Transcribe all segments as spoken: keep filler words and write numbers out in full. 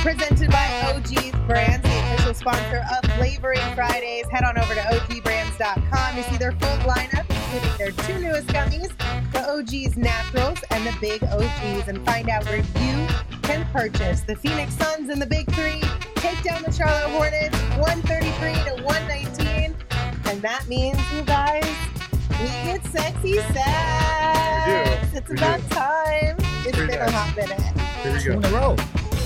Presented by O G Brands, the official sponsor of Flavoring Fridays. Head on over to O G brands dot com to see their full lineup, including their two newest gummies, the O G's Naturals and the Big O Gs, and find out where you can purchase the Phoenix Suns and the Big Three. Take down the Charlotte Hornets, one thirty-three to one nineteen. And that means, you guys, we get sexy sex. We do. It's We about do. time. It's Pretty been nice. a hot minute. Here we Two in go. a row.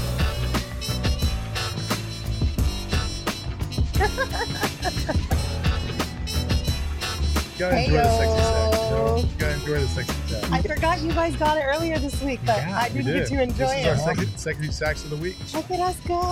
You gotta enjoy the sexy sex. You, know? Heyo. You gotta enjoy the sexy sex. I forgot you guys got it earlier this week, but Yeah, I We didn't get did. to enjoy this is it. our second sexy sex of the week. Look at us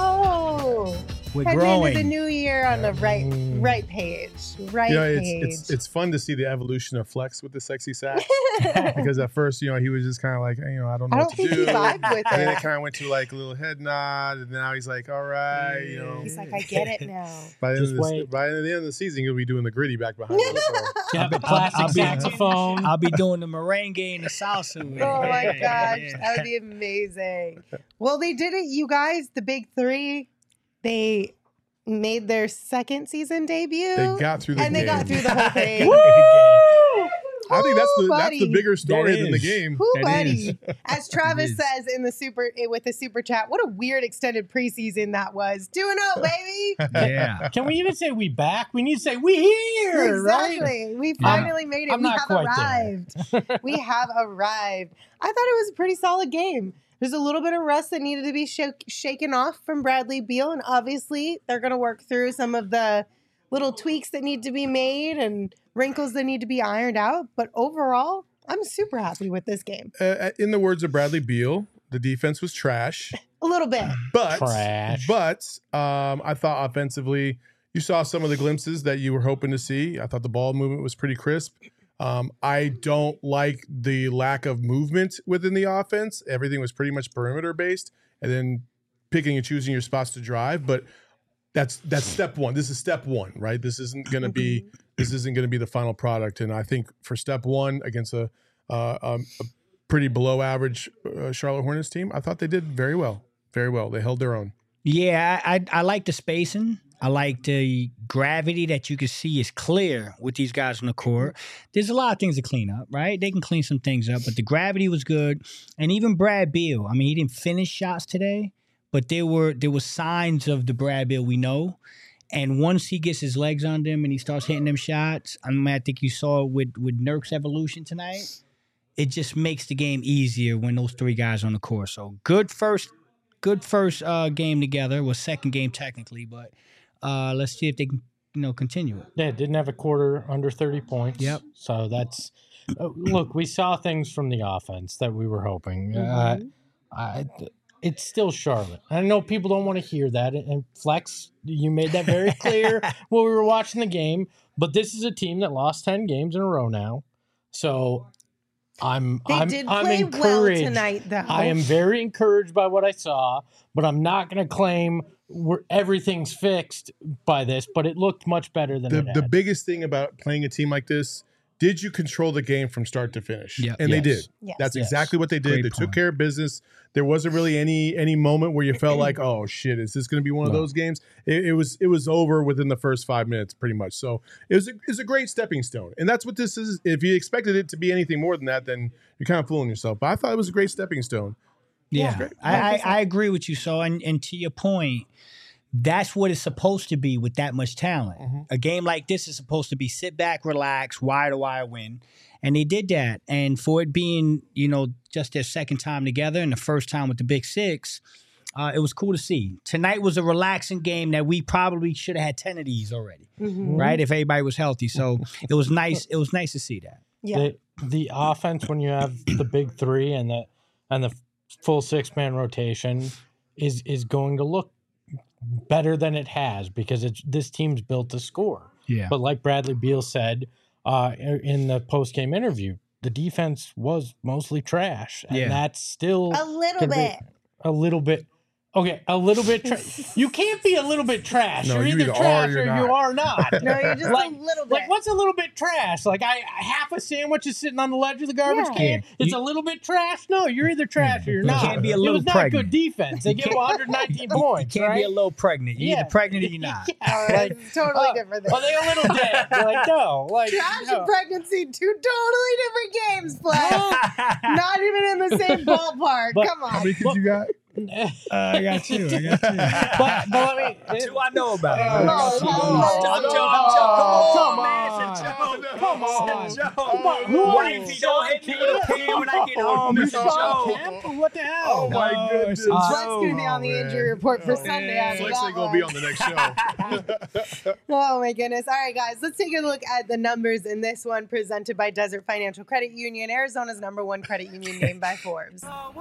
go. We're Heading growing. into the new year on the right Mm. right page. Right You know, it's, page. it's it's fun to see the evolution of Flex with the sexy sax. Because at first, you know, he was just kind of like, you know, I don't know I what don't to think do. he vibed with And then it it. kind of went to like a little head nod, and now he's like, all right, you know. He's like, I get it now. By the, end Just of the, wait. by the end of the season, he'll be doing the gritty back behind us. So. Yeah, the I'll- plastic I'll be- saxophone. I'll be doing the merengue and the salsa. with it. Oh my Yeah, gosh, yeah. that would be amazing. Well, they did it, you guys. The Big Three, they made their second season debut. They got through the and game. they got through the whole thing. Woo! I think that's the Woo, that's the buddy. bigger story That than the is. game. Woo, That buddy. is. As Travis is. says in the super eh, with the super chat, what a weird extended preseason that was. Doing up, baby. Yeah. Can we even say we back? We need to say we here, right? Exactly. We Yeah. finally made it. I'm we not have quite arrived. we have arrived. I thought it was a pretty solid game. There's a little bit of rust that needed to be sh- shaken off from Bradley Beal, and obviously they're going to work through some of the little tweaks that need to be made and wrinkles that need to be ironed out. But overall, I'm super happy with this game. Uh, in the words of Bradley Beal, the defense was trash, A little bit. but Trash. but um, I thought offensively, you saw some of the glimpses that you were hoping to see. I thought the ball movement was pretty crisp. Um, I don't like the lack of movement within the offense. Everything was pretty much perimeter based, and then picking and choosing your spots to drive. But that's that's step one. This is step one, right? This isn't going to be this isn't going to be the final product. And I think for step one against a uh, um, a pretty below average uh, Charlotte Hornets team, I thought they did very well, very well. They held their own. Yeah, I, I I like the spacing. I like the gravity that you can see is clear with these guys on the court. There's a lot of things to clean up, right? They can clean some things up, but the gravity was good. And even Brad Beal, I mean, he didn't finish shots today, but there were there were signs of the Brad Beal we know. And once he gets his legs on them and he starts hitting them shots, I mean, I think you saw it with with Nurk's evolution tonight. It just makes the game easier when those three guys are on the court. So good first, good first uh, game together. Was second game technically, but uh, let's see if they can, you know, continue it. Yeah, didn't have a quarter under thirty points. Yep. So that's uh, look. We saw things from the offense that we were hoping. Uh, I, it's still Charlotte. I know people don't want to hear that, and Flex, you made that very clear when we were watching the game. But this is a team that lost ten games in a row now. So I'm They I'm did I'm play encouraged. well tonight, though. I am very encouraged by what I saw, but I'm not going to claim we're, everything's fixed by this. But it looked much better than The it the had. biggest thing about playing a team like this, did you control the game from start to finish? Yep. And they Yes. did. Yes. That's Yes. exactly what they did. Great they point. took care of business. There wasn't really any any moment where you felt like, oh shit, is this going to be one of No. those games? It, it was it was over within the first five minutes, pretty much. So it was a, it was a great stepping stone, and that's what this is. If you expected it to be anything more than that, then you're kind of fooling yourself. But I thought it was a great stepping stone. Yeah, great. I, I, I agree with you. So, and, and to your point, that's what it's supposed to be with that much talent. Mhm. A game like this is supposed to be sit back, relax, wire to wire win. And they did that. And for it being, you know, just their second time together and the first time with the Big Six, uh, it was cool to see. Tonight was a relaxing game that we probably should have had ten of these already, Mhm. right? If everybody was healthy. So it was nice. It was nice to see that. Yeah. the, the offense when you have the big three and the and the full six man rotation is is going to look better than it has because it's this team's built to score. Yeah. But like Bradley Beal said uh, in the post game interview, the defense was mostly trash, and Yeah. that's still A little gonna be bit. a little bit Okay, a little bit. Tra- you can't be a little bit trash. No, you're you either either are trash or you're or not. you are not. No, you're just like, a little bit. Like, what's a little bit trash? Like, I half a sandwich is sitting on the ledge of the garbage Yeah. can. Yeah. It's You- a little bit trash. No, you're either trash or you're You not. can't be a it little was not pregnant. good defense. They give one hundred nineteen points. You can't right? be a little pregnant. You're Yeah. either pregnant or you're not. Yeah, All right, like, it's totally oh, different. Are they a little dead? They're like, no. Like, Trash no. and pregnancy, two totally different games, Flex. Not even in the same ballpark. But- Come How on. many kids you got? Uh, I got two. I got two. but, but let me. Two I know about. Oh, No, oh, no, oh, no, I'm no, joking. no. I'm joking. Come Come on, on. man. It's a joke. No, Come on. no. Joke. Oh, Come on. no. Wifey, don't hit me with a pen when I get home. It's a Sean joke. Kemp? What the hell? Oh, my No, goodness. it's a Uh, Flex going to be on the Oh, injury man. report for Oh, Sunday. yeah. After Flex that ain't gonna one. be on the next show. Oh my goodness. All right, guys, let's take a look at the numbers in this one presented by Desert Financial Credit Union, Arizona's number one credit union named by Forbes.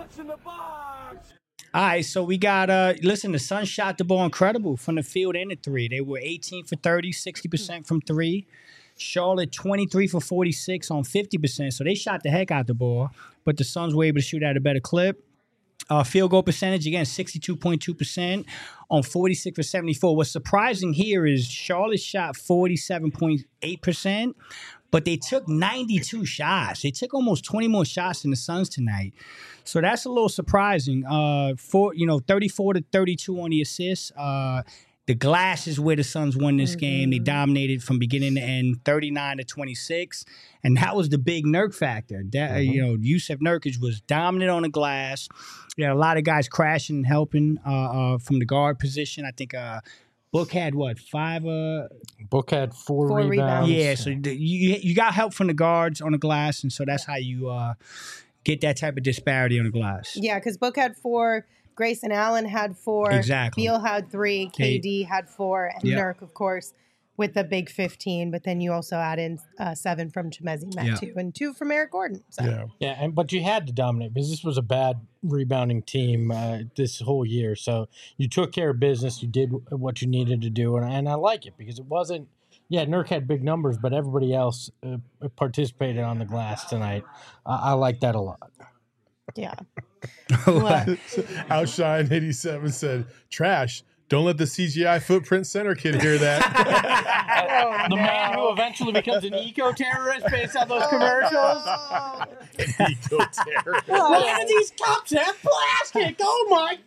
All right, so we got, uh, listen, the Suns shot the ball incredible from the field and the three. They were eighteen for thirty, sixty percent from three. Charlotte, twenty-three for forty-six on fifty percent. So they shot the heck out the ball, but the Suns were able to shoot at a better clip. Uh, field goal percentage, again, sixty-two point two percent on forty-six for seventy-four. What's surprising here is Charlotte shot forty-seven point eight percent, but they took ninety-two shots. They took almost twenty more shots than the Suns tonight. So that's a little surprising. Uh, for you know, thirty-four to thirty-two on the assists. Uh, the glass is where the Suns won this game. They dominated from beginning to end, thirty-nine to twenty-six, and that was the big Nurk factor. That uh, you know, Yusuf Nurkic was dominant on the glass. You had a lot of guys crashing and helping uh, uh, from the guard position. I think uh, Book had what five? Uh, Book had four, Four rebounds. rebounds. yeah, so the, you you got help from the guards on the glass, and so that's how you uh, get that type of disparity on the glass. Yeah, because Book had four, Grayson Allen had four, Exactly. Beal had three, K D had four, and Yeah. Nurk, of course, with the big fifteen. But then you also add in uh, seven from Chemezi Yeah. Metu and two from Eric Gordon. So. Yeah. Yeah, and but you had to dominate because this was a bad rebounding team uh, this whole year. So you took care of business. You did what you needed to do, and, and I like it because it wasn't. Yeah, Nurk had big numbers, but everybody else uh, participated on the glass tonight. Uh, I like that a lot. Yeah. What? Outshine eighty-seven said, "Trash. Don't let the C G I footprint center kid hear that." The man who eventually becomes an eco-terrorist based on those commercials. Eco-terror. Why do these cups have plastic? Oh my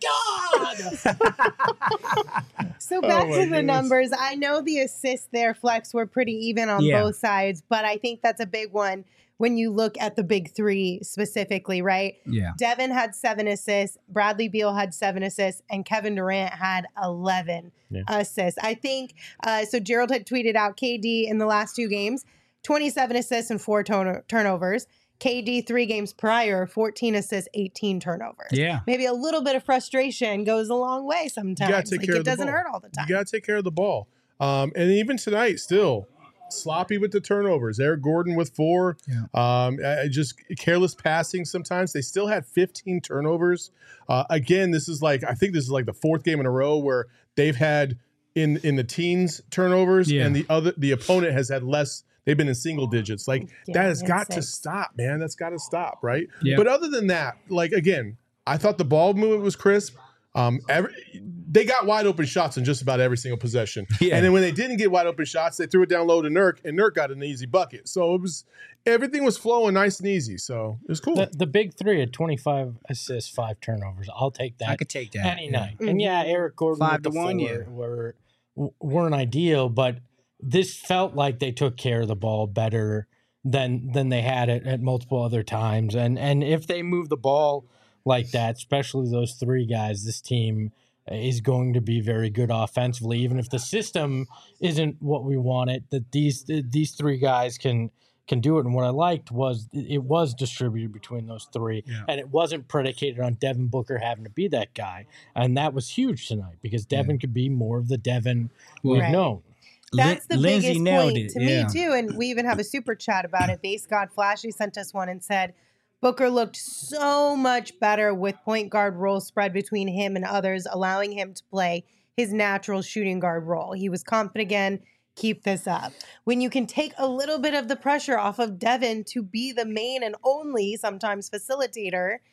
god! So Oh back my to the goodness. numbers. I know the assists there, Flex, were pretty even on Yeah. both sides, but I think that's a big one when you look at the big three specifically, right? Yeah. Devin had seven assists, Bradley Beal had seven assists, and Kevin Durant had eleven Yeah. assists. I think, uh, so Gerald had tweeted out K D in the last two games, twenty-seven assists and four turn- turnovers. K D three games prior, fourteen assists, eighteen turnovers. Yeah. Maybe a little bit of frustration goes a long way sometimes. take Like, care it of the doesn't ball. hurt all the time. You got to take care of the ball. Um, and even tonight, still sloppy with the turnovers. Eric Gordon with four. Yeah. Um, I- I just careless passing sometimes. They still had fifteen turnovers. Uh, again, this is like, I think this is like the fourth game in a row where they've had in in the teens turnovers, Yeah. and the other the opponent has had less. They've been in single digits. Like Yeah, that has and got to six. stop, man. That's got to stop, right? Yeah. But other than that, like again, I thought the ball movement was crisp. Um, every, they got wide open shots in just about every single possession. Yeah. And then when they didn't get wide open shots, they threw it down low to Nurk, and Nurk got an easy bucket. So it was everything was flowing nice and easy. So it was cool. The, the big three had twenty-five assists, five turnovers. I'll take that I could take that. any Yeah. night. And yeah, Eric Gordon Five with to the one, four yeah. were weren't ideal, but this felt like they took care of the ball better than than they had it at multiple other times. And and if they move the ball like that, especially those three guys, this team is going to be very good offensively, even if the system isn't what we want it. That these these three guys can can do it. And what I liked was it was distributed between those three, Yeah. and it wasn't predicated on Devin Booker having to be that guy. And that was huge tonight because Devin could be more of the Devin we've Right. known. That's the Lin- Lindsay biggest nailed point it. to Yeah. me too. And we even have a super chat about it. Base God Flashy sent us one and said Booker looked so much better with point guard role spread between him and others, allowing him to play his natural shooting guard role. He was confident again. Keep this up. When you can take a little bit of the pressure off of Devin to be the main and only sometimes facilitator,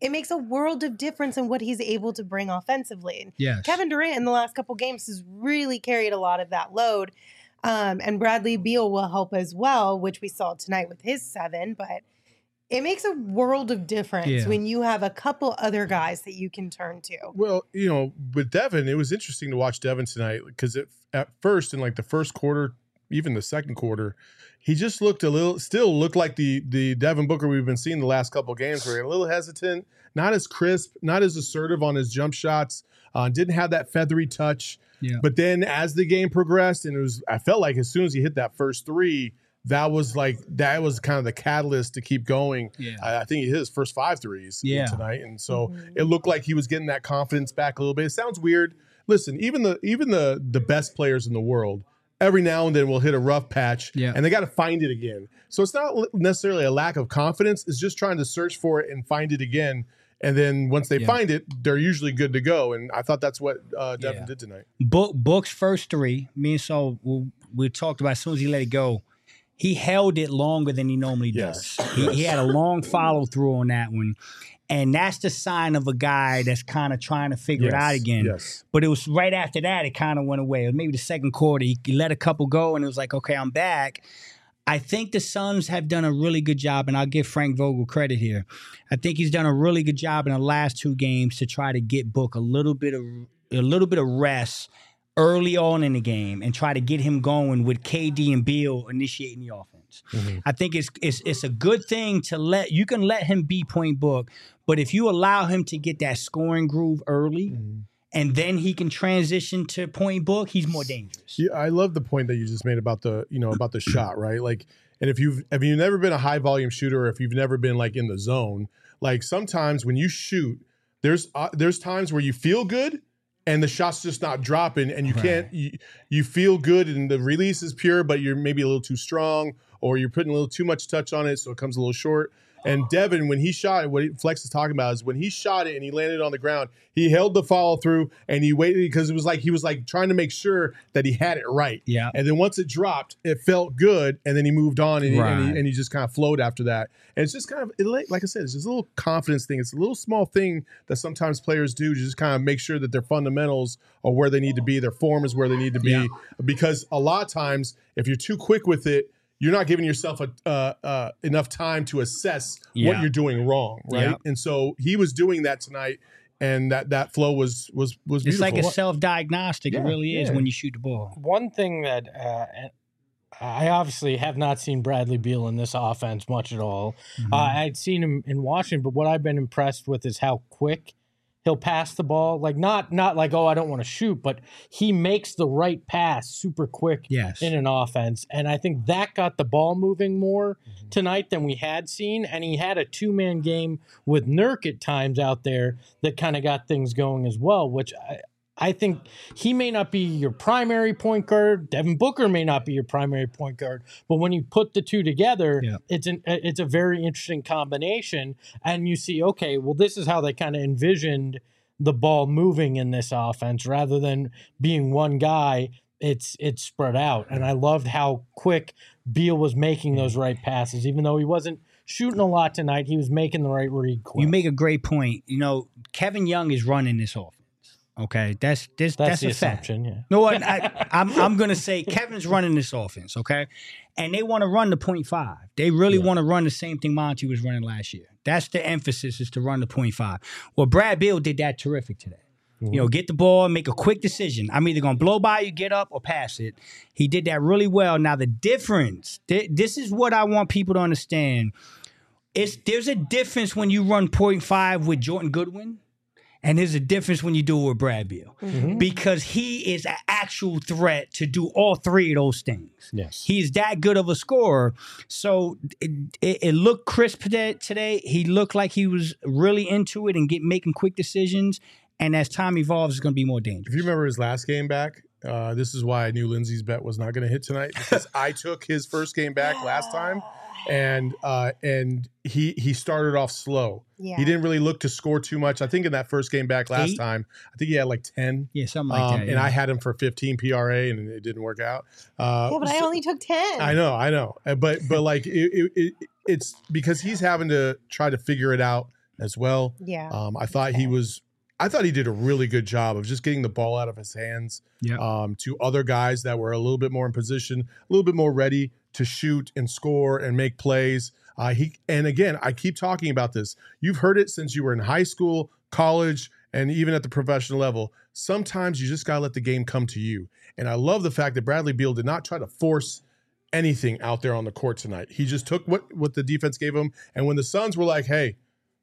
it makes a world of difference in what he's able to bring offensively. Yes. Kevin Durant in the last couple games has really carried a lot of that load. Um, and Bradley Beal will help as well, which we saw tonight with his seven. But it makes a world of difference Yeah. when you have a couple other guys that you can turn to. Well, you know, with Devin, it was interesting to watch Devin tonight because at first, in like the first quarter, even the second quarter, he just looked a little, still looked like the the Devin Booker we've been seeing the last couple of games, where he a little hesitant, not as crisp, not as assertive on his jump shots, uh, didn't have that feathery touch. Yeah. But then as the game progressed, and it was, I felt like as soon as he hit that first three, that was like that was kind of the catalyst to keep going. Yeah. I, I think he hit his first five threes Yeah. tonight, and so Mhm. it looked like he was getting that confidence back a little bit. It sounds weird. Listen, even the even the the best players in the world, every now and then will hit a rough patch, Yeah. and they got to find it again. So it's not necessarily a lack of confidence. It's just trying to search for it and find it again. And then once they Yeah. find it, they're usually good to go. And I thought that's what uh, Devin Yeah. did tonight. Book Book's first three, me and Saul, we, we talked about as soon as he let it go, he held it longer than he normally Yes. does. He, he had a long follow through on that one. And that's the sign of a guy that's kind of trying to figure it out again. Yes. But it was right after that, it kind of went away. It was maybe the second quarter. He, he let a couple go, and it was like, okay, I'm back. I think the Suns have done a really good job, and I'll give Frank Vogel credit here. I think he's done a really good job in the last two games to try to get Book a little bit of a little bit of rest early on in the game and try to get him going with K D and Beal initiating the offense. Mm-hmm. I think it's it's it's a good thing to let you can let him be point Book, but if you allow him to get that scoring groove early. Mm-hmm. And then he can transition to point Book, he's more dangerous. Yeah, I love the point that you just made about the, you know, about the shot, right? Like, and if you've if you've never been a high volume shooter, or if you've never been like in the zone, like sometimes when you shoot, there's uh, there's times where you feel good and the shot's just not dropping, and you Right. can't you, you feel good and the release is pure, but you're maybe a little too strong, or you're putting a little too much touch on it, so it comes a little short. And Devin, when he shot it, what Flex is talking about is when he shot it and he landed on the ground, he held the follow through and he waited because it was like he was like trying to make sure that he had it right. Yeah. And then once it dropped, it felt good, and then he moved on and, he, and, he, Right. and he just kind of flowed after that. And it's just kind of, it, like I said, it's just a little confidence thing. It's a little small thing that sometimes players do to just kind of make sure that their fundamentals are where they need to be, their form is where they need to be. Yeah. Because a lot of times, if you're too quick with it, you're not giving yourself a, uh, uh, enough time to assess Yeah. what you're doing wrong, right? Yeah. And so he was doing that tonight, and that that flow was was was It's beautiful. like a self-diagnostic. Yeah, it really is yeah. when you shoot the ball. One thing that uh, I obviously have not seen Bradley Beal in this offense much at all. Mm-hmm. Uh, I'd seen him in Washington, but what I've been impressed with is how quick he'll pass the ball. Like not not like, oh, I don't want to shoot, but he makes the right pass super quick Yes. in an offense. And I think that got the ball moving more Mm-hmm. tonight than we had seen. And he had a two-man game with Nurk at times out there that kind of got things going as well, which I, I think he may not be your primary point guard. Devin Booker may not be your primary point guard. But when you put the two together, Yeah. it's an it's a very interesting combination. And you see, okay, well, this is how they kind of envisioned the ball moving in this offense rather than being one guy. It's it's spread out. And I loved how quick Beal was making those right passes. Even though he wasn't shooting a lot tonight, he was making the right read quick. You make a great point. You know, Kevin Young is running this offense. Okay, that's this. That's, That's, the a fact. assumption, yeah. No, what I, I'm I'm gonna say Kevin's running this offense. Okay, and they want to run the point five. They really Yeah. want to run the same thing Monty was running last year. That's the emphasis, is to run the point five. Well, Brad Beal did that terrific today. You know, get the ball, make a quick decision. I'm either going to blow by you, get up, or pass it. He did that really well. Now, the difference, th- this is what I want people to understand. It's, there's a difference when you run point five with Jordan Goodwin, and there's a difference when you do it with Brad Beal. Because he is an actual threat to do all three of those things. Yes. He's that good of a scorer. So it, it, it looked crisp today, today. He looked like he was really into it and get making quick decisions. And as time evolves, it's going to be more If dangerous. you remember his last game back, uh, this is why I knew Lindsay's bet was not going to hit tonight, because I took his first game back last time, and uh, and he he started off slow. Yeah. He didn't really look to score too much. I think in that first game back last Eight? time, I think he had like ten. Yeah, something like Um, that. and yeah. I had him for fifteen P R A, and it didn't work out. Uh, Yeah, but I so- only took ten. I know, I know, Uh, but but like it, it, it, it's because he's having to try to figure it out as well. Yeah. Um, I thought he was. I thought he did a really good job of just getting the ball out of his hands Yeah. um, to other guys that were a little bit more in position, a little bit more ready to shoot and score and make plays. Uh, he and again, I keep talking about this. You've heard it since you were in high school, college, and even at the professional level. Sometimes you just gotta let the game come to you. And I love the fact that Bradley Beal did not try to force anything out there on the court tonight. He just took what what the defense gave him. And when the Suns were like, "Hey,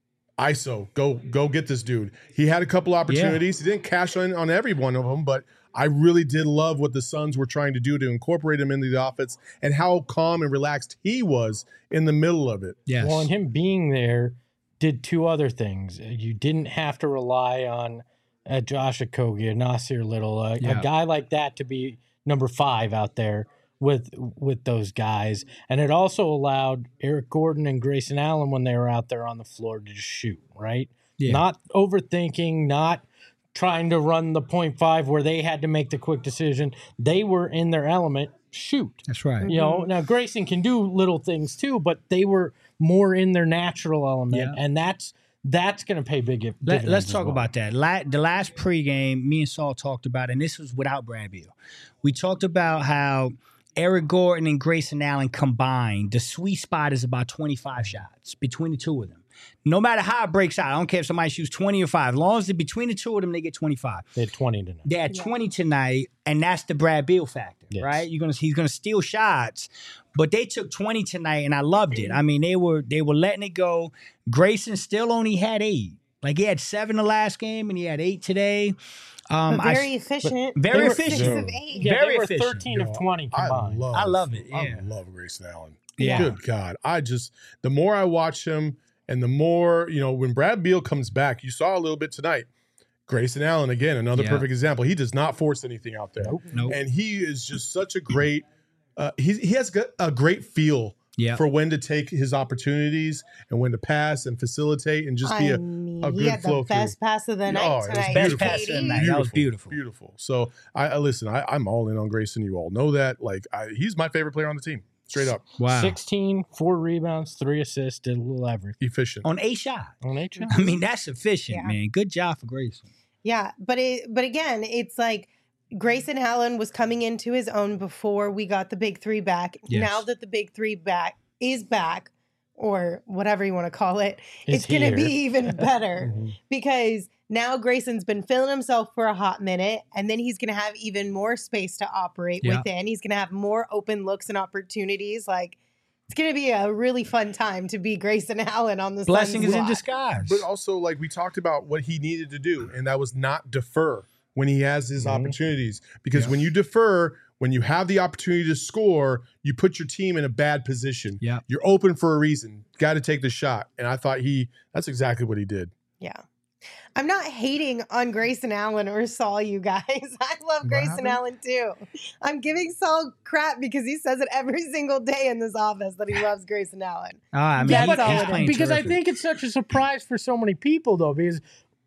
I S O, go go get this dude," he had a couple opportunities. Yeah. He didn't cash in on every one of them, but I really did love what the Suns were trying to do to incorporate him into the offense and how calm and relaxed he was in the middle of it. Yes. Well, and him being there did two other things. You didn't have to rely on uh, Josh Okogie, Nasir Little, uh, Yeah. a guy like that to be number five out there with with those guys. And it also allowed Eric Gordon and Grayson Allen, when they were out there on the floor, to just shoot, right? Yeah. Not overthinking, not trying to run the point five where they had to make the quick decision. They were in their element. Shoot. That's right. You know, now Grayson can do little things too, but they were more in their natural element, Yeah. and that's that's going to pay big dividends. Let, let's as talk well. about that. La- the last pregame, me and Saul talked about, and this was without Brad Beal. We talked about how Eric Gordon and Grayson Allen combined, the sweet spot is about twenty-five shots between the two of them. No matter how it breaks out, I don't care if somebody shoots twenty or five. As long as they're between the two of them, they get twenty-five. They had twenty tonight. They had Yeah. twenty tonight, and that's the Brad Beal factor, Yes. right? You're gonna he's gonna steal shots, but they took twenty tonight, and I loved it. I mean, they were they were letting it go. Grayson still only had eight. Like he had seven the last game, and he had eight today. Um, But I- very efficient. very They were- Six efficient. of eight. Yeah, Very they were efficient. thirteen of twenty I combined. love, I love it, I yeah. love Grayson Allen. Yeah. Good God. I just, the more I watch him and the more, you know, when Brad Beal comes back, you saw a little bit tonight. Grayson Allen, again, another Yeah. perfect example. He does not force anything out there. Nope. Nope. And he is just such a great, uh, he, he has got a great feel Yeah. for when to take his opportunities and when to pass and facilitate and just be I a, mean, a he good had flow the best pass of the Oh, night it was tonight. Best beautiful. pass of the Katie. night. That was beautiful. Beautiful. So I, I listen. I, I'm all in on Grayson. You all know that. Like I, he's my favorite player on the team. Straight up, Wow. sixteen, four rebounds, three assists, did a little everything. efficient. On eight shots. On eight shots. I mean, that's efficient, Yeah. man. Good job for Grayson. Yeah, but it but again, it's like Grayson Allen was coming into his own before we got the big three back. Yes. Now that the big three back is back, or whatever you want to call it, It's it's going to here. be even better Mhm. because now Grayson's been feeling himself for a hot minute, and then he's going to have even more space to operate Yeah. within. He's going to have more open looks and opportunities. Like it's going to be a really fun time to be Grayson Allen on the Blessing Suns is in squad. disguise. But also, like we talked about, what he needed to do, and that was not defer when he has his Mhm. opportunities. Because Yeah. when you defer, when you have the opportunity to score, you put your team in a bad position. Yeah. You're open for a reason. Got to take the shot. And I thought he, that's exactly what he did. Yeah. I'm not hating on Grayson Allen or Saul, you guys. I love What Grayson happened? Allen too. I'm giving Saul crap because he says it every single day in this office that he loves Grayson Allen. Ah, I mean, Yeah, he- but- he's uh, playing because I terrific. think it's such a surprise for so many people, though, because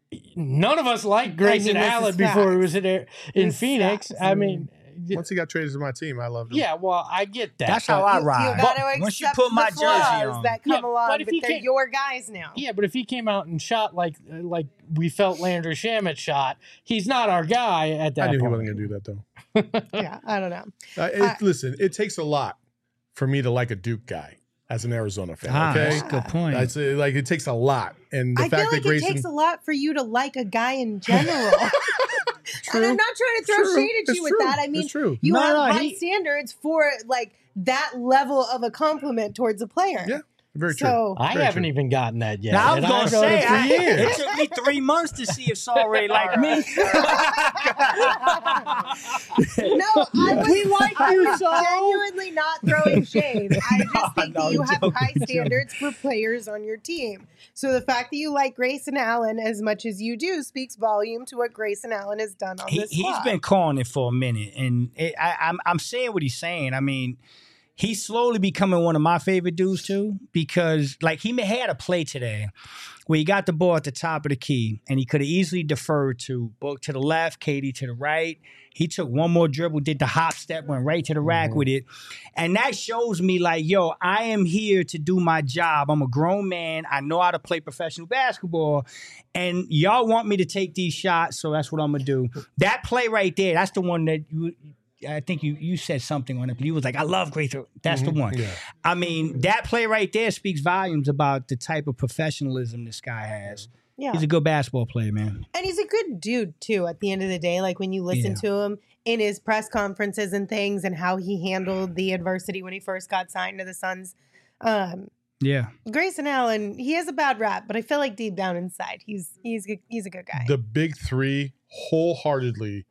none of us liked Grayson this is Allen before he facts. was in, in This is Phoenix. facts. I mean, Once he got traded to my team, I loved him. yeah, well, I get that. That's but- how I You, ride. you got to Once you accept put my the jersey flaws on. that come Yeah, along, but but, if he they're can't- your guys now. Yeah, but if he came out and shot like like we felt Landry Shamet shot, he's not our guy at that I knew he point. wasn't going to do that, though. Yeah, I don't know. Uh, it, I- listen, it takes a lot for me to like a Duke guy as an Arizona fan. Ah, Okay, that's a good point. That's uh, like it takes a lot, and the I fact feel like that Grayson it takes a lot for you to like a guy in general. And I'm not trying to throw True. shade at It's you with true. that. I mean, It's true. you No, have no, high he- standards for like that level of a compliment towards a player. Yeah, very true. So I Very haven't true. even gotten that yet. Now, I was and going to I've known say, him for I, years. it took me three months to see if Saul Ray liked me. no, I was, We like I you, was Saul. genuinely not throwing shade. I just think No, that you I'm have joking, high joking. standards for players on your team. So the fact that you like Grayson Allen as much as you do speaks volume to what Grayson Allen has done on he, this he's squad. been calling it for a minute, and it, I, I'm I'm saying what he's saying. I mean, he's slowly becoming one of my favorite dudes too, because like he may- had a play today where he got the ball at the top of the key and he could have easily deferred to Book to the left, Katie to the right. He took one more dribble, did the hop step, went right to the rack Mm-hmm. with it. And that shows me like, yo, I am here to do my job. I'm a grown man. I know how to play professional basketball. And y'all want me to take these shots, so that's what I'm going to do. That play right there, that's the one that you... I think you you said something on it. You was like, I love great throw. That's the one. Yeah. I mean, that play right there speaks volumes about the type of professionalism this guy has. Yeah. He's a good basketball player, man. And he's a good dude, too, at the end of the day. Like, when you listen Yeah. to him in his press conferences and things and how he handled the adversity when he first got signed to the Suns. Um, Yeah. Grayson Allen, he has a bad rap, but I feel like deep down inside, he's he's good- he's a good guy. The big three wholeheartedly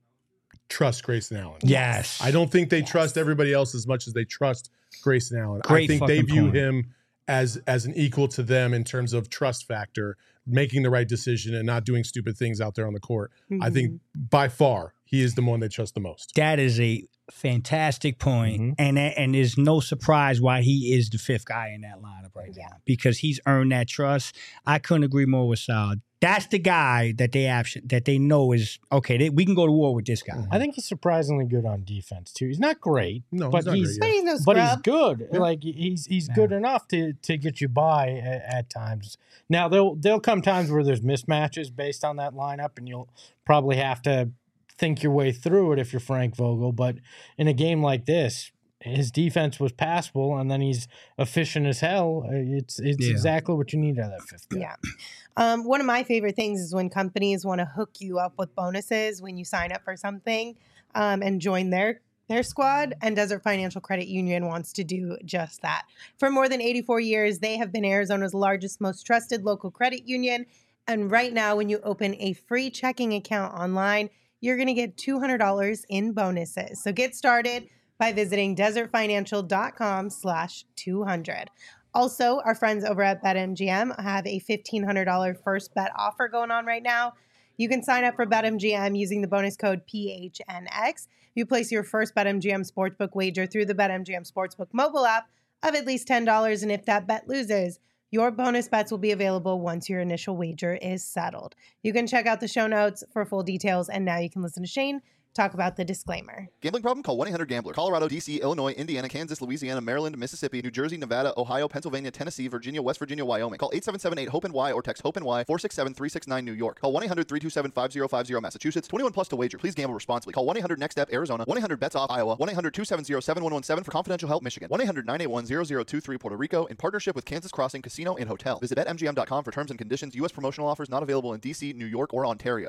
trust Grayson Allen. Yes. I don't think they Yes. trust everybody else as much as they trust Grayson Allen. I Great think they fucking view point. him as as an equal to them in terms of trust factor, making the right decision and not doing stupid things out there on the court. I think by far he is the one they trust the most. That is a fantastic point. Mhm. and and there's no surprise why he is the fifth guy in that lineup right Yeah. now, because he's earned that trust. I couldn't agree more with Sal. That's the guy that they have, that they know is okay. They, we can go to war with this guy. I think he's surprisingly good on defense too. He's not great, No, but he's not he's great But yet. he's no but he's scrub. good. Yeah. Like he's he's Yeah. good enough to to get you by at, at times. Now there'll there'll come times where there's mismatches based on that lineup, and you'll probably have to think your way through it if you're Frank Vogel. But in a game like this, his defense was passable, and then he's efficient as hell. Uh, It's it's Yeah. exactly what you need out of that fifth guy. Yeah. Um, one of my favorite things is when companies want to hook you up with bonuses when you sign up for something um, and join their their squad. And Desert Financial Credit Union wants to do just that. For more than eighty-four years, they have been Arizona's largest, most trusted local credit union. And right now, when you open a free checking account online, you're going to get two hundred dollars in bonuses. So get started by visiting desertfinancial.com slash 200. Also, our friends over at BetMGM have a fifteen hundred dollars first bet offer going on right now. You can sign up for BetMGM using the bonus code P H N X. You place your first BetMGM Sportsbook wager through the BetMGM Sportsbook mobile app of at least ten dollars. And if that bet loses, your bonus bets will be available once your initial wager is settled. You can check out the show notes for full details. And now you can listen to Shane talk about the disclaimer. Gambling problem? Call one eight hundred gambler. Colorado, D C, Illinois, Indiana, Kansas, Louisiana, Maryland, Mississippi, New Jersey, Nevada, Ohio, Pennsylvania, Tennessee, Virginia, West Virginia, Wyoming. Call eight seven seven eight hope N Y or text HOPE-NY four six seven three six nine New York. Call one eight hundred three two seven five zero five zero Massachusetts. twenty-one plus to wager. Please gamble responsibly. Call one eight hundred next step Arizona. one eight hundred bets off Iowa. one eight hundred two seven zero seven one one seven for confidential help Michigan. one eight hundred nine eight one zero zero two three Puerto Rico in partnership with Kansas Crossing Casino and Hotel. Visit bet M G M dot com for terms and conditions. U S promotional offers not available in D C, New York, or Ontario.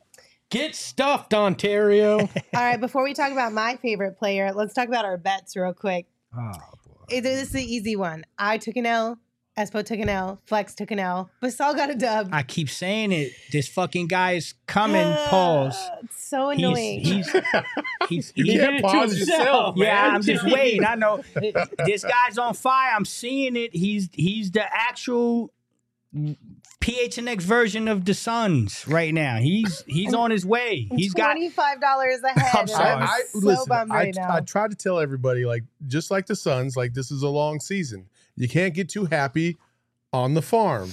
Get stuffed, Ontario. All right, before we talk about my favorite player, let's talk about our bets real quick. Oh, It- This is the easy one. I took an L. Espo took an L. Flex took an L. Basal got a dub. I keep saying it. This fucking guy is coming. Pause. Ah, it's so He's, annoying. he's, he's, You he- did can't it to pause himself, yourself, yeah, man. I'm just waiting. I know this guy's on fire. I'm seeing it. He's he's the actual P H N X version of the Suns right now. He's he's on his way. He's got twenty-five dollars ahead. I'm and sorry. I'm I, so listen, bummed I, right now. I try to tell everybody, like, just like the Suns, like, this is a long season. You can't get too happy on the farm.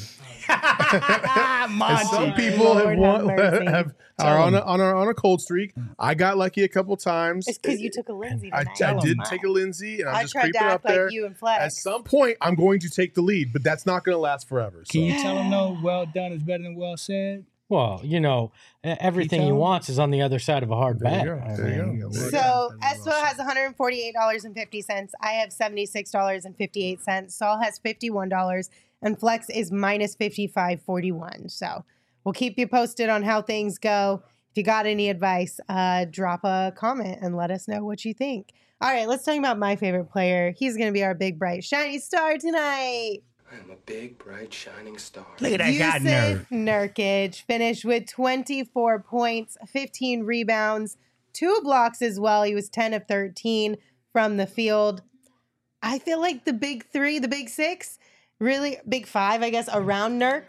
And Monty. some people have, Lord won, have mercy. have are on a, on a on a cold streak. I got lucky a couple times. It's because you took a Lindsay I, tonight. I Oh, did my. take a Lindsay, and I'm I just tried to creeping act up there. like you and Flex. At some point, I'm going to take the lead, but that's not going to last forever. So. Can you tell him no? Well done is better than well said. Well, you know, e- everything he tell him? wants is on the other side of a hard There you bet. go. I There you mean, go. So Espo has one hundred forty-eight dollars and fifty cents. I have seventy-six dollars and fifty-eight cents. Saul has fifty-one dollars. And Flex is minus fifty-five forty-one. So we'll keep you posted on how things go. If you got any advice, uh, drop a comment and let us know what you think. All right, let's talk about my favorite player. He's going to be our big, bright, shiny star tonight. I'm a big, bright, shining star. Look at that guy, Yusuf nerd. Nurkic finished with twenty-four points, fifteen rebounds, two blocks as well. He was ten of thirteen from the field. I feel like the big three, the big six, really big five, I guess, around Nurk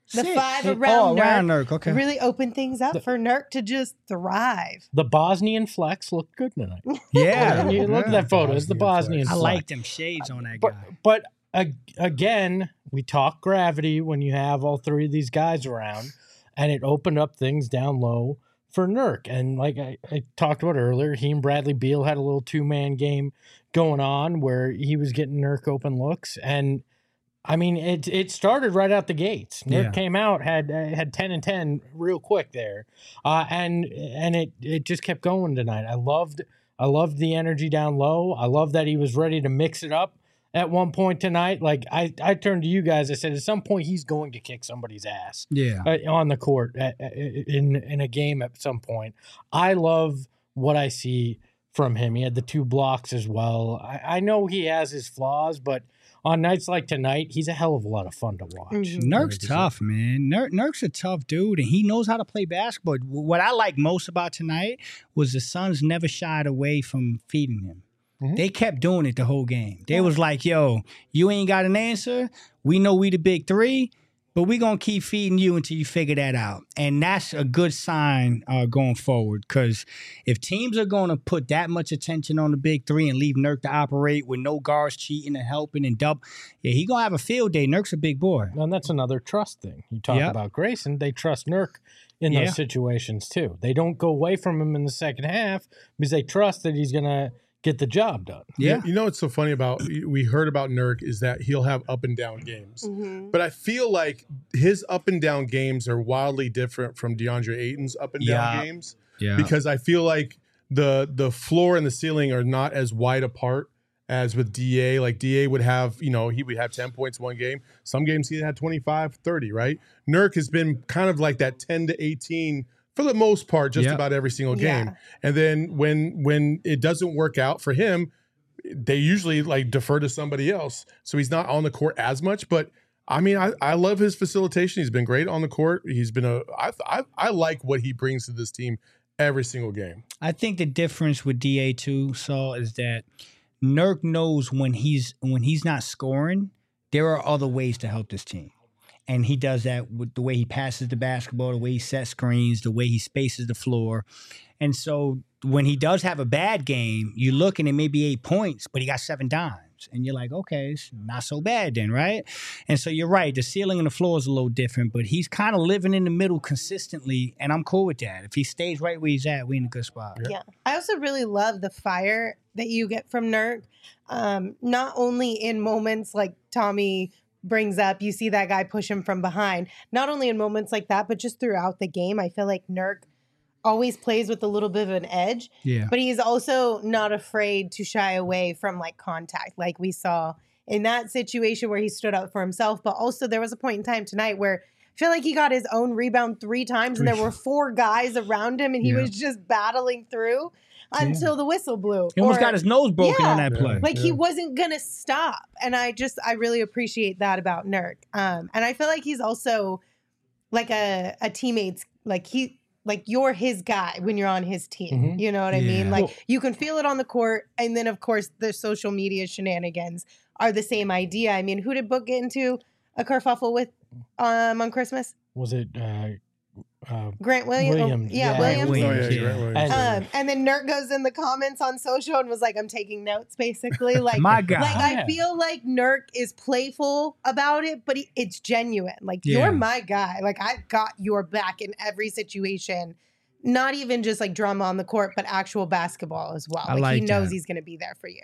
The Six. five Six. around oh, around Nurk Nurk. Okay. really opened things up The- for Nurk to just thrive. The Bosnian flex looked good tonight. Yeah. You look at yeah. that photo. It's the Bosnian Bosnian I flex. like them shades on that But guy. but uh, again, we talk gravity when you have all three of these guys around, and it opened up things down low for Nurk. And like I, I talked about earlier, he and Bradley Beal had a little two man game going on where he was getting Nurk open looks, and I mean it it started right out the gates. Nurk Yeah. came out had uh, had ten and ten real quick there, uh, and and it it just kept going tonight. I loved I loved the energy down low. I love that he was ready to mix it up at one point tonight. Like I I turned to you guys. I said at some point he's going to kick somebody's ass Yeah. uh, on the court uh, uh, in in a game at some point. I love what I see from him. He had the two blocks as well. I, I know he has his flaws, but on nights like tonight, he's a hell of a lot of fun to watch. Mhm. Nurk's tough, man. Nurk, Nurk's a tough dude, and he knows how to play basketball. What I like most about tonight was the Suns never shied away from feeding him. Mhm. They kept doing it the whole game. They was like, yo, you ain't got an answer. We know we the big three, but we going to keep feeding you until you figure that out. And that's a good sign uh, going forward, because if teams are going to put that much attention on the big three and leave Nurk to operate with no guards cheating and helping and double, yeah, he going to have a field day. Nurk's a big boy. And that's another trust thing. You talk Yep. about Grayson, they trust Nurk in Yeah. those situations too. They don't go away from him in the second half because they trust that he's going to get the job done. Yeah. You know what's so funny about we heard about Nurk is that he'll have up and down games. Mhm. But I feel like his up and down games are wildly different from DeAndre Ayton's up and down Yeah. games Yeah. because I feel like the the floor and the ceiling are not as wide apart as with D A. Like D A would have, you know, he would have ten points one game. Some games he had twenty-five, thirty, right? Nurk has been kind of like that ten to eighteen for the most part, just Yep. about every single game. Yeah. And then when when it doesn't work out for him, they usually like defer to somebody else. So he's not on the court as much. But I mean, I, I love his facilitation. He's been great on the court. He's been a I, I I like what he brings to this team every single game. I think the difference with D A too, Saul, is that Nurk knows when he's when he's not scoring, there are other ways to help this team. And he does that with the way he passes the basketball, the way he sets screens, the way he spaces the floor. And so when he does have a bad game, you look and it may be eight points, but he got seven dimes. And you're like, okay, it's not so bad then, right? And so you're right. The ceiling and the floor is a little different, but he's kind of living in the middle consistently, and I'm cool with that. If he stays right where he's at, we in a good spot. Yeah. I also really love the fire that you get from Nurk. Um, not only in moments like Tommy brings up, you see that guy push him from behind. Not only in moments like that, but just throughout the game, I feel like Nurk always plays with a little bit of an edge, Yeah. but he's also not afraid to shy away from like contact, like we saw in that situation where he stood up for himself. But also there was a point in time tonight where I feel like he got his own rebound three times and there were four guys around him and he Yeah. was just battling through until the whistle blew. He almost Or- got his nose broken Yeah. on that play. like he wasn't gonna stop, and I just I really appreciate that about Nurk. Um, and I feel like he's also like a a teammate's like he like you're his guy when you're on his team. Mhm. You know what I mean? Yeah. Like Well- you can feel it on the court, and then of course the social media shenanigans are the same idea. I mean, who did Book get into a kerfuffle with um on Christmas? Was it uh, uh, Grant Williams. Williams, yeah, yeah. Williams. Oh, yeah, Williams, Grant yeah. Williams. Um, and then Nurk goes in the comments on social and was like, I'm taking notes, basically. Like, My God. like Yeah. I feel like Nurk is playful about it, but he, it's genuine. Like, Yeah. you're my guy. Like, I've got your back in every situation. Not even just like drama on the court, but actual basketball as well. I Like, he like knows that. he's going to be there for you.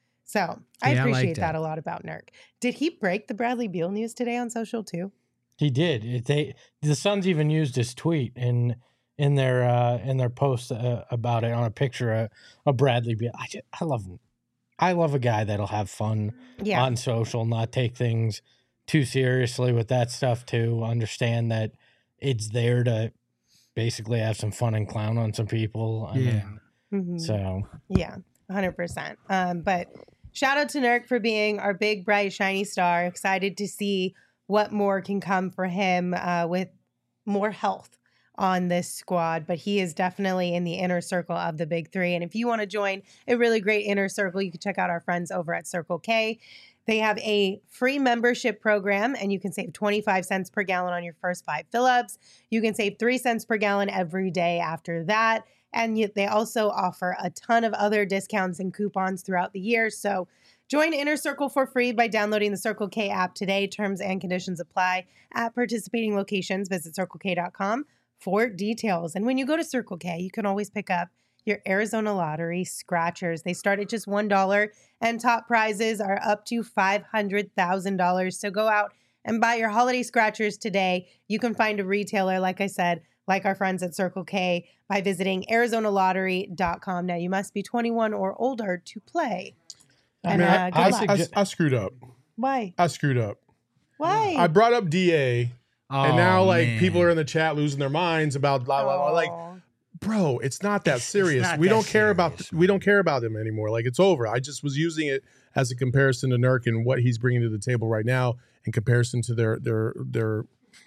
So I Yeah, I like appreciate that. that. a lot about Nurk. Did he break the Bradley Beal news today on social too? He did. It, they the Suns even used his tweet in in their uh, in their post uh, about it on a picture of, of Bradley Beal. I just, I love him. I love a guy that'll have fun Yeah. on social, not take things too seriously with that stuff too. Understand that it's there to basically have some fun and clown on some people. I Yeah. mean, Mhm. so Yeah, one hundred percent. Um, but shout out to Nurk for being our big, bright, shiny star. Excited to see what more can come for him uh, with more health on this squad. But he is definitely in the inner circle of the big three. And if you want to join a really great inner circle, you can check out our friends over at Circle K. They have a free membership program, and you can save twenty-five cents per gallon on your first five fill-ups. You can save three cents per gallon every day after that. And you, they also offer a ton of other discounts and coupons throughout the year. So join Inner Circle for free by downloading the Circle K app today. Terms and conditions apply at participating locations. Visit circle k dot com for details. And when you go to Circle K, you can always pick up your Arizona Lottery scratchers. They start at just one dollar, and top prizes are up to five hundred thousand dollars. So go out and buy your holiday scratchers today. You can find a retailer, like I said, like our friends at Circle K, by visiting arizona lottery dot com. Now, you must be twenty-one or older to play. And Man, uh, I, good I, luck. I, I screwed up. Why? I screwed up. Why? I brought up D A, Oh, and now like man. people are in the chat losing their minds about blah blah blah. Like, Oh. bro, it's not that serious. not We that don't care about serious, we don't care about him anymore. Like, it's over. I just was using it as a comparison to Nurk and what he's bringing to the table right now in comparison to their their their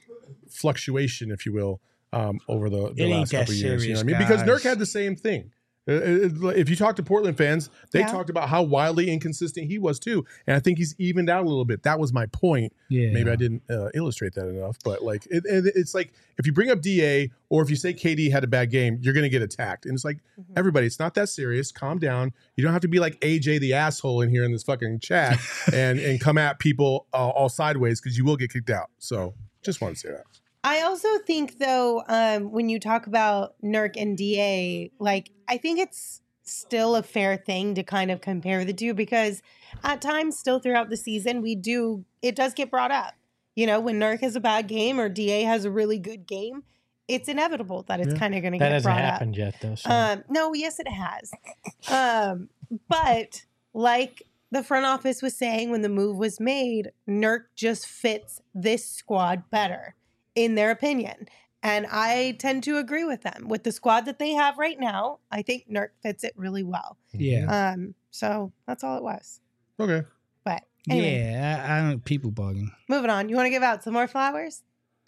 fluctuation, if you will, um, over the, the It ain't last that couple of years. You know what I mean? serious, Because guys. Nurk had the same thing. Uh, uh, If you talk to Portland fans, they Yeah. talked about how wildly inconsistent he was too, and I think he's evened out a little bit. That was my point. Yeah. Maybe I didn't uh, illustrate that enough, but like it, it, it's like if you bring up D A or if you say K D had a bad game, you're going to get attacked, and it's like Mm-hmm. everybody, it's not that serious. Calm down. You don't have to be like A J the asshole in here in this fucking chat and and come at people uh, all sideways because you will get kicked out. So just wanted to say that. I also think, though, um, when you talk about Nurk and D A, like, I think it's still a fair thing to kind of compare the two, because at times still throughout the season, we do, it does get brought up. You know, when Nurk has a bad game or D A has a really good game, it's inevitable that it's Yeah. kind of going to That get hasn't brought up. happened yet, though. So. Um, no, yes, it has. Um, but like the front office was saying when the move was made, Nurk just fits this squad better, in their opinion. And I tend to agree with them. With the squad that they have right now, I think Nurk fits it really well. Yeah. Um, so that's all it was. Okay. But anyway, Yeah. I, I don't people bugging. moving on. You want to give out some more flowers?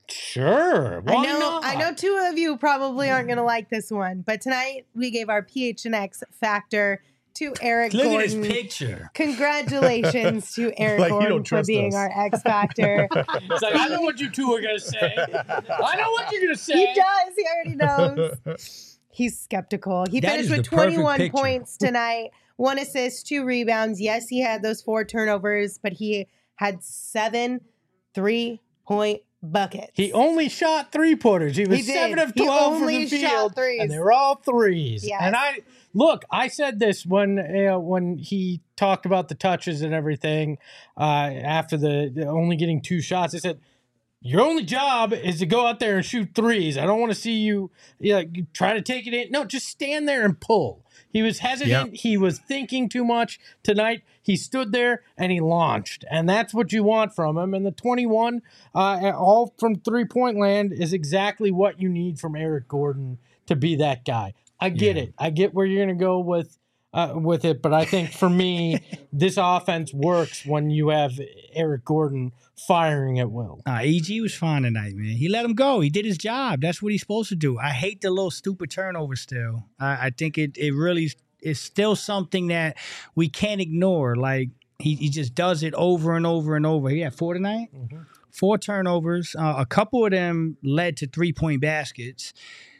Sure. Why I know not? I know two of you probably aren't going to like this one, but tonight we gave our P H N X factor to Eric Look Gordon. at this picture. Congratulations to Eric Like, you Gordon don't for trust being us. our X Factor. It's like, I know what you two are going to say. I know what you're going to say. He does. He already knows. He's skeptical. He That finished is with the perfect twenty-one picture. points tonight, one assist, two rebounds. Yes, he had those four turnovers, but he had seven three-point buckets. He only shot three pointers. He was He did. seven of He twelve from only the shot field, threes. and they were all threes. Yes. And I look, I said this when uh, when he talked about the touches and everything uh, after the, the only getting two shots. I said, your only job is to go out there and shoot threes. I don't want to see you, you know, try to take it in. No, just stand there and pull. He was hesitant. He was thinking too much tonight. He stood there and he launched. And that's what you want from him. And the twenty-one, uh, all from three-point land, is exactly what you need from Eric Gordon to be that guy. I get Yeah. it. I get where you're going to go with uh, with it. But I think for me, this offense works when you have Eric Gordon firing at will. Uh, E G was fine tonight, man. He let him go. He did his job. That's what he's supposed to do. I hate the little stupid turnover still. I, I think it it really is still something that we can't ignore. Like, he, he just does it over and over and over. He had four tonight? Mhm. Four turnovers. Uh, a couple of them led to three-point baskets.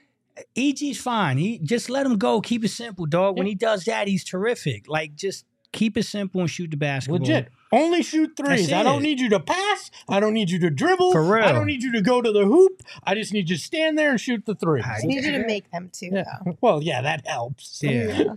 E G's fine. He just let him go. Keep it simple, dog. When he does that, he's terrific. Like, just keep it simple and shoot the basketball. Legit. Only shoot threes. That's I don't it. need you to pass. I don't need you to dribble. For real. I don't need you to go to the hoop. I just need you to stand there and shoot the threes. I need you to make them too, Yeah. though. Well, yeah, that helps. Yeah.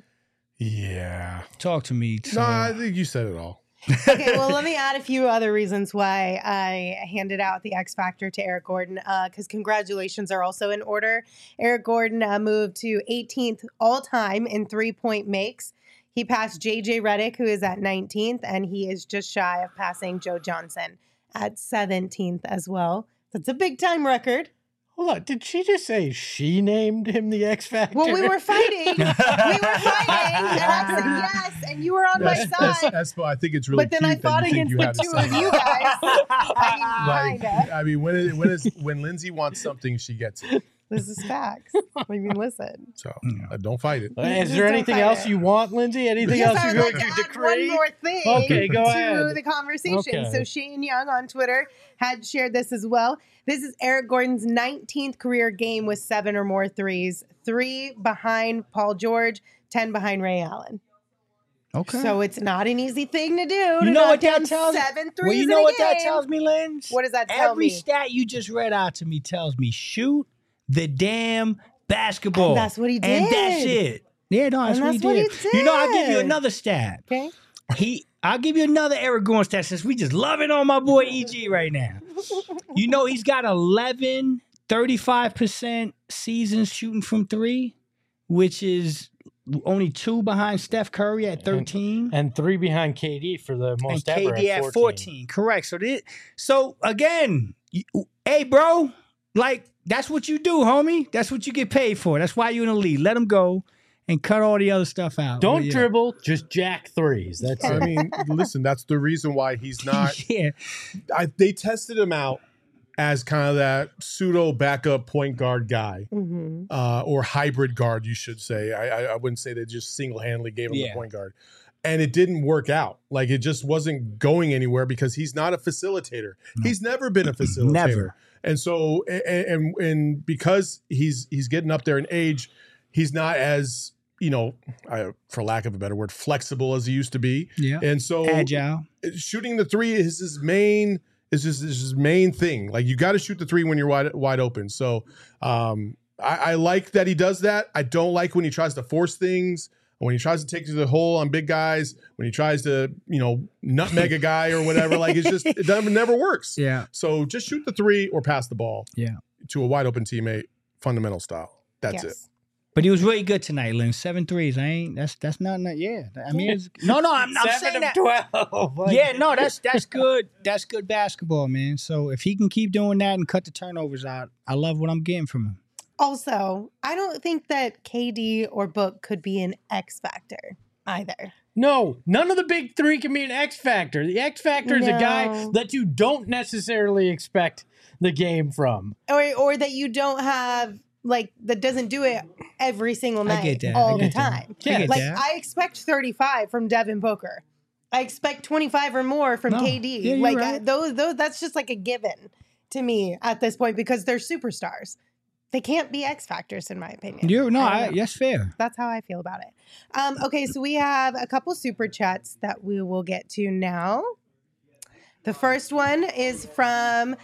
Yeah. Talk to me. No, son. I think you said it all. Okay, well, let me add a few other reasons why I handed out the X Factor to Eric Gordon, because congratulations are also in order. Eric Gordon uh, moved to eighteenth all-time in three-point makes. He passed J J Redick, who is at nineteenth, and he is just shy of passing Joe Johnson at seventeenth as well. That's a big-time record. Hold on. Did she just say she named him the X Factor? Well, we were fighting. we were fighting, and I said yes, and you were on my That's, that's, side. that's why I think it's really But then I cute that fought you think against you the have to two say of you it. guys. I mean, Like, kinda. I mean, when it, when it's, when Lindsay wants something, she gets it. This is facts. I mean, listen. So uh, don't fight it. Uh, Is Just there don't anything fight else it. you want, Lindsay? Anything Yes, else I you're would going like to to add one decree? more thing Okay, go to ahead. the conversation. Okay. So Shane Young on Twitter had shared this as well. This is Eric Gordon's nineteenth career game with seven or more threes, three behind Paul George, ten behind Ray Allen. Okay. So it's not an easy thing to do. you to know knock what that down tells seven threes Well, you in know a what that game. tells me, Lens? What does that tell Every me? stat you just read out to me tells me shoot the damn basketball. And that's what he And that's did. it. Yeah, no, that's, And what, that's he what did. he You know, I'll give you did. another stat. Okay. He, I'll give you another Eric Gordon stat since we just loving on my boy E G right now. You know, he's got eleven, thirty-five percent seasons shooting from three, which is only two behind Steph Curry at thirteen. And three behind K D for the most and ever K D at at fourteen. fourteen. Correct. So this, so again, you, hey, bro, like that's what you do, homie. That's what you get paid for. That's why you're in the league. Let him go and cut all the other stuff out. Don't But, yeah. dribble, just jack threes. That's I it. mean, listen, that's the reason why he's not. yeah, I, they tested him out as kind of that pseudo backup point guard guy, Mm-hmm. uh, or hybrid guard, you should say. I, I, I wouldn't say they just single handedly gave him Yeah. the point guard. And it didn't work out. Like it just wasn't going anywhere because he's not a facilitator. He's never been a facilitator. Never. And so, and, and and because he's he's getting up there in age, he's not as, you know, I, for lack of a better word, flexible as he used to be. yeah. And so, Agile. shooting the three is his main is just is his main thing. Like you got to shoot the three when you're wide wide open. So um, I, I like that he does that. I don't like when he tries to force things. When he tries to take to the hole on big guys. When he tries to, you know, nutmeg a guy or whatever. Like it's just it never, never works. Yeah. So just shoot the three or pass the ball. Yeah. To a wide open teammate, fundamental style. That's it. Yes. But he was really good tonight, Lynn. Seven threes. I ain't. That's that's not. not yeah. I mean, it's, no, no. I'm, I'm saying Seven that. of twelve. Like, Yeah, no, that's that's good. That's good basketball, man. So if he can keep doing that and cut the turnovers out, I love what I'm getting from him. Also, I don't think that K D or Book could be an X factor either. No, none of the big three can be an X factor. The X factor is a guy No. that you don't necessarily expect the game from. Or or that you don't have like that doesn't do it every single I night get that. I all the get that. time. I get Like that. I expect thirty-five from Devin Booker. I expect twenty-five or more from No. K D. Yeah, you're like right. I, those those that's just like a given to me at this point because they're superstars. They can't be X factors in my opinion. You're no, I don't I, know. that's fair. That's how I feel about it. Um, okay, so we have a couple super chats that we will get to now. The first one is from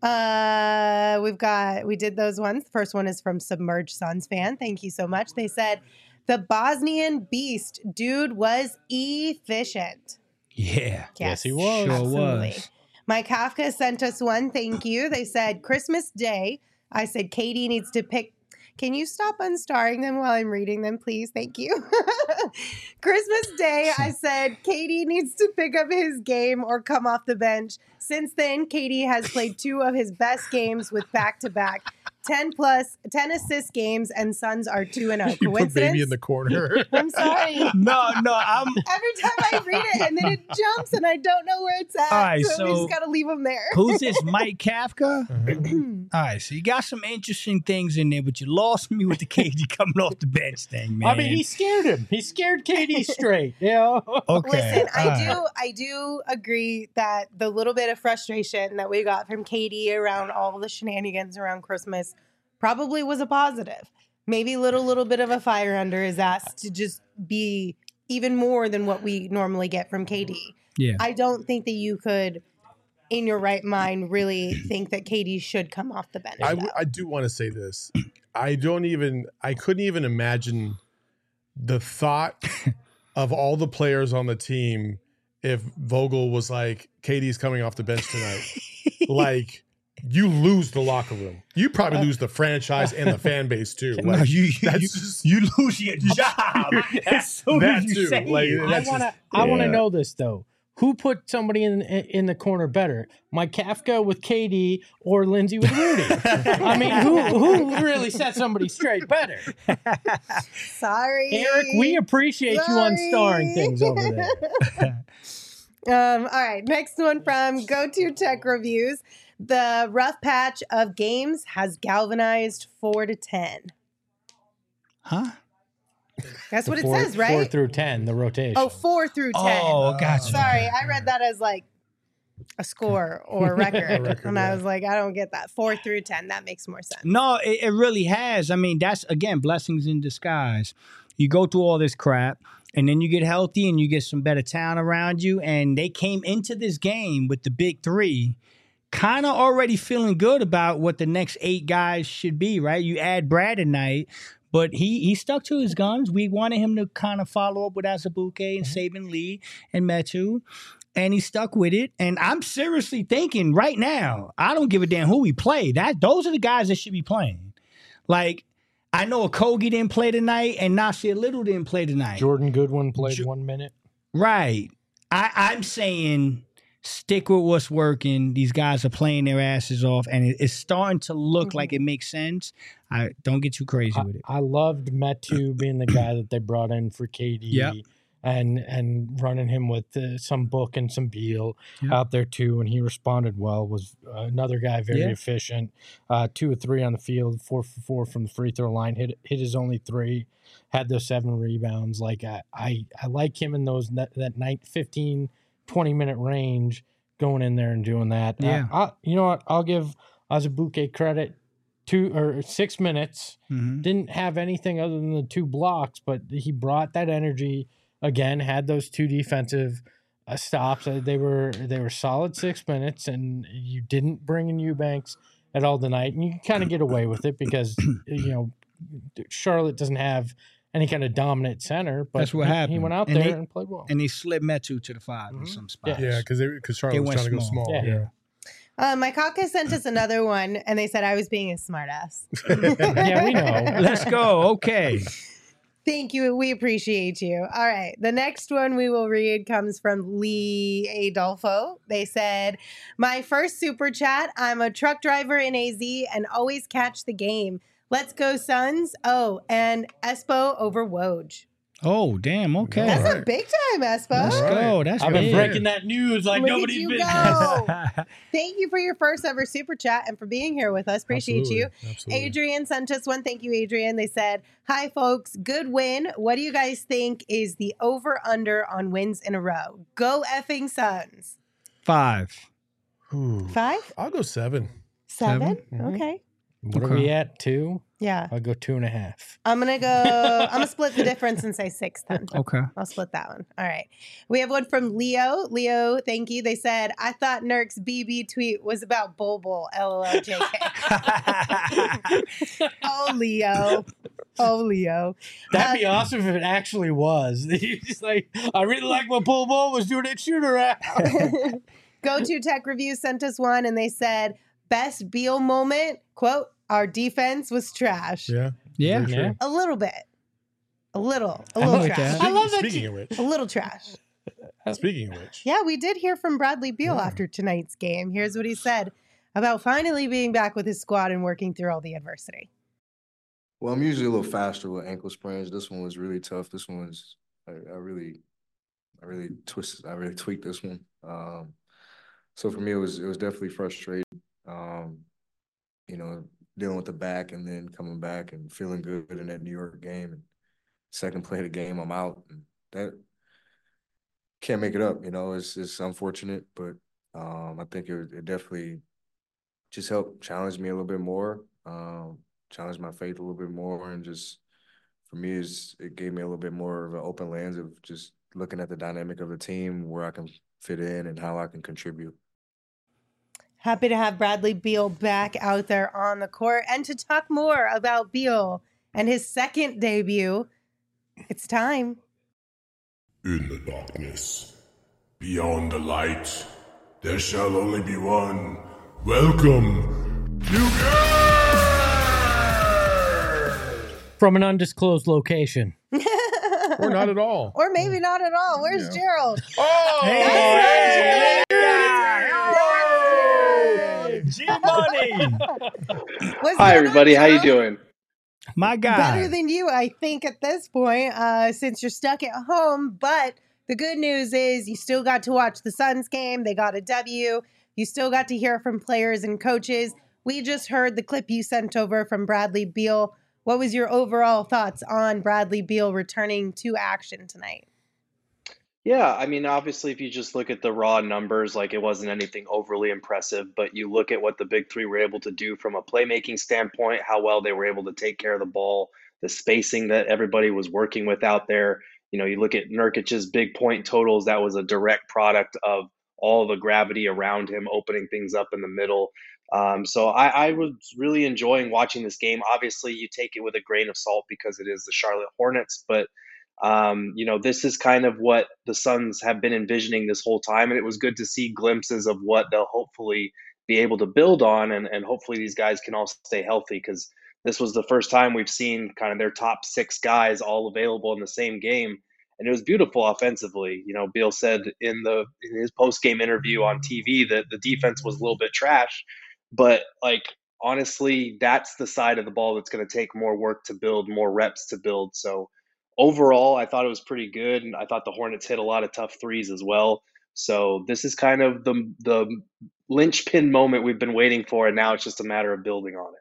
uh we've got we did those ones. The first one is from Submerged Suns fan. Thank you so much. They said the Bosnian beast dude was efficient. Yeah. Yes, he was. Sure was. Mike Kafka sent us one. Thank you. They said Christmas Day. I said Katie needs to pick. Can you stop unstarring them while I'm reading them, please? Thank you. Christmas Day, I said Katie needs to pick up his game or come off the bench. Since then, Katie has played two of his best games with back-to-back ten plus, ten assist games, and Suns are two and oh. You put Coincidence? baby in the corner. I'm sorry. No, no, I'm Every time I read it, and then it jumps, and I don't know where it's at. All right, so, we so- just got to leave them there. who's this? Mike Kafka? Uh-huh. All right, so you got some interesting things in there, but you lost me with the K D coming off the bench thing, man. I mean, he scared him. He scared K D straight. You know? okay. Listen, I all right. do I do agree that the little bit of frustration that we got from Katie around all the shenanigans around Christmas probably was a positive. Maybe a little little bit of a fire under his ass to just be even more than what we normally get from K D. Yeah. I don't think that you could, in your right mind, really think that K D should come off the bench. I, though. w- I do want to say this. I don't even, I couldn't even imagine the thought of all the players on the team if Vogel was like, Katie's coming off the bench tonight. Like, you lose the locker room. You probably lose the franchise and the fan base too. No, Like, you, you, that's you, just- you lose your job as soon that as you too. say Like, it. I that's want to. just- I want to yeah. know this though. Who put somebody in in the corner better, Mike Kafka with K D or Lindsay with Rudy? I mean, who who really set somebody straight better? Sorry. Eric, we appreciate you on starring things over there. Um, all right, next one from Go To Tech Reviews. The rough patch of games has galvanized four to ten. Huh? That's The what it four, says, right? Four through ten, the rotation. Oh, four through ten. Oh, gotcha. Sorry, I read that as like a score or a record. A record, and yeah. I was like, I don't get that. Four through ten. That makes more sense. No, it, it really has. I mean, that's, again, blessings in disguise. You go through all this crap, and then you get healthy, and you get some better talent around you, and they came into this game with the big three kind of already feeling good about what the next eight guys should be, right? You add Brad tonight, but he he stuck to his guns. We wanted him to kind of follow up with Azubuike and Saban Lee and Metu, and he stuck with it. And I'm seriously thinking right now, I don't give a damn who we play. That those are the guys that should be playing. Like, I know Okogie didn't play tonight, and Nasir Little didn't play tonight. Jordan Goodwin played Jo- one minute. Right. I, I'm saying stick with what's working. These guys are playing their asses off, and it, it's starting to look Mm-hmm. like it makes sense. I don't get too crazy I, with it. I loved Metu being the guy that they brought in for K D. Yep. And and running him with uh, some Book and some Beal Yep. out there too, and he responded well. Was uh, another guy very Yeah. efficient, uh, two or three on the field, four for four from the free throw line. Hit hit his only three, had those seven rebounds. Like I I, I like him in those that, that night fifteen, twenty minute range, going in there and doing that. Uh, Yeah. I, you know what? I'll give Azubuike credit. Two or six minutes. Mhm. Didn't have anything other than the two blocks, but he brought that energy. Again, had those two defensive uh, stops. Uh, they were they were solid six minutes, and you didn't bring in Eubanks at all tonight, and you kind of get away with it because you know Charlotte doesn't have any kind of dominant center. But That's what he, he happened. went out And there they- and played well. And they slid Metu to the five in Mhm. some spots. Yeah, because because Charlotte They was went trying to go small. small. Yeah. Yeah. Uh, my caucus sent us another one, and they said I was being a smartass. Yeah, we know. Let's go. Okay. Thank you. We appreciate you. All right. The next one we will read comes from Lee Adolfo. They said, my first super chat. I'm a truck driver in A Z and always catch the game. Let's go, Suns. Oh, and Espo over Woj. Oh, damn. Okay. That's All a right. big time, Espo. Let's All right. go. That's I've been big. breaking that news like Look at nobody's you business. go. Thank you for your first ever super chat and for being here with us. Appreciate Absolutely. you. Absolutely. Adrian sent us one. Thank you, Adrian. They said, hi, folks. Good win. What do you guys think is the over-under on wins in a row? Go effing Suns. Five. Ooh. Five? I'll go seven. Seven? Mhm. Okay. What are Okay. we at? Two? Yeah. I'll go two and a half. I'm going to go, I'm going to split the difference and say six then. Okay. I'll split that one. All right. We have one from Leo. Leo, thank you. They said, I thought Nurk's B B tweet was about Bol Bol. LOL J K. Oh, Leo. Oh, Leo. That'd be awesome if it actually was. He's just like, I really like what Bull Bull was doing at shoot around. Go to Tech Review sent us one and they said, best Beal moment, quote, our defense was trash. Yeah. Yeah. Very true. Yeah. A little bit. A little. A I little like trash. that. I love that Speaking you- of which, A little trash. speaking of which, Yeah, we did hear from Bradley Beal Yeah. after tonight's game. Here's what he said about finally being back with his squad and working through all the adversity. Well, I'm usually a little faster with ankle sprains. This one was really tough. This one was, I, I really, I really twisted, I really tweaked this one. Um, so for me, it was, it was definitely frustrating. Um, you know, dealing with the back and then coming back and feeling good in that New York game. And second play of the game, I'm out. And that can't make it up. You know, it's it's unfortunate, but um, I think it, it definitely just helped challenge me a little bit more. Um, challenge my faith a little bit more, and just for me, is it gave me a little bit more of an open lens of just looking at the dynamic of the team, where I can fit in, and how I can contribute. Happy to have Bradley Beal back out there on the court and to talk more about Beal and his second debut. It's time. In the darkness, beyond the light, there shall only be one. Welcome, you From an undisclosed location. or not at all. Or maybe not at all. Where's Yeah. Gerald? Oh, Hey, hey, G-Money. What's Hi, going everybody. on, How you Gerald? doing? My Better guy. than you, I think, at this point, uh, since you're stuck at home. But the good news is you still got to watch the Suns game. They got a W. You still got to hear from players and coaches. We just heard the clip you sent over from Bradley Beal. What was your overall thoughts on Bradley Beal returning to action tonight? Yeah, I mean, obviously, if you just look at the raw numbers, like it wasn't anything overly impressive, but you look at what the big three were able to do from a playmaking standpoint, how well they were able to take care of the ball, the spacing that everybody was working with out there. You know, you look at Nurkic's big point totals, that was a direct product of all the gravity around him, opening things up in the middle. Um, so I, I was really enjoying watching this game. Obviously, you take it with a grain of salt because it is the Charlotte Hornets, but um, you know, this is kind of what the Suns have been envisioning this whole time, and it was good to see glimpses of what they'll hopefully be able to build on, and, and hopefully these guys can all stay healthy because this was the first time we've seen kind of their top six guys all available in the same game, and it was beautiful offensively. You know, Beal said in the in his post game interview on T V that the defense was a little bit trash, but like honestly, that's the side of the ball that's going to take more work to build, more reps to build. So overall, I thought it was pretty good, and I thought the Hornets hit a lot of tough threes as well. So this is kind of the the linchpin moment we've been waiting for, and now it's just a matter of building on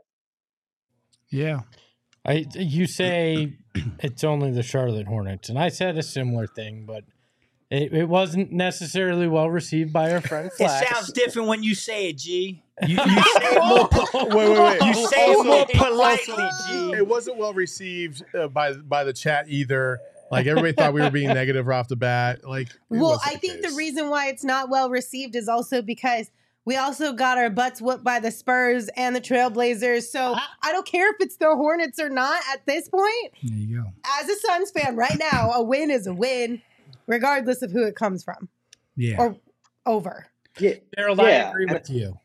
it. Yeah. I you say it's only the Charlotte Hornets, and I said a similar thing, but it, it wasn't necessarily well received by our friend It Flax. sounds different when you say it, G. You, you say it more. Wait, wait, wait. You say it more politely, G. It wasn't well received uh, by by the chat either. Like everybody thought we were being negative right off the bat. Like, it Well, wasn't I the think case. the reason why it's not well received is also because we also got our butts whooped by the Spurs and the Trailblazers. So I don't care if it's the Hornets or not at this point. There you go. As a Suns fan right now, a win is a win, regardless of who it comes from Yeah. or over. Yeah, Gerald, yeah, I agree and- with you.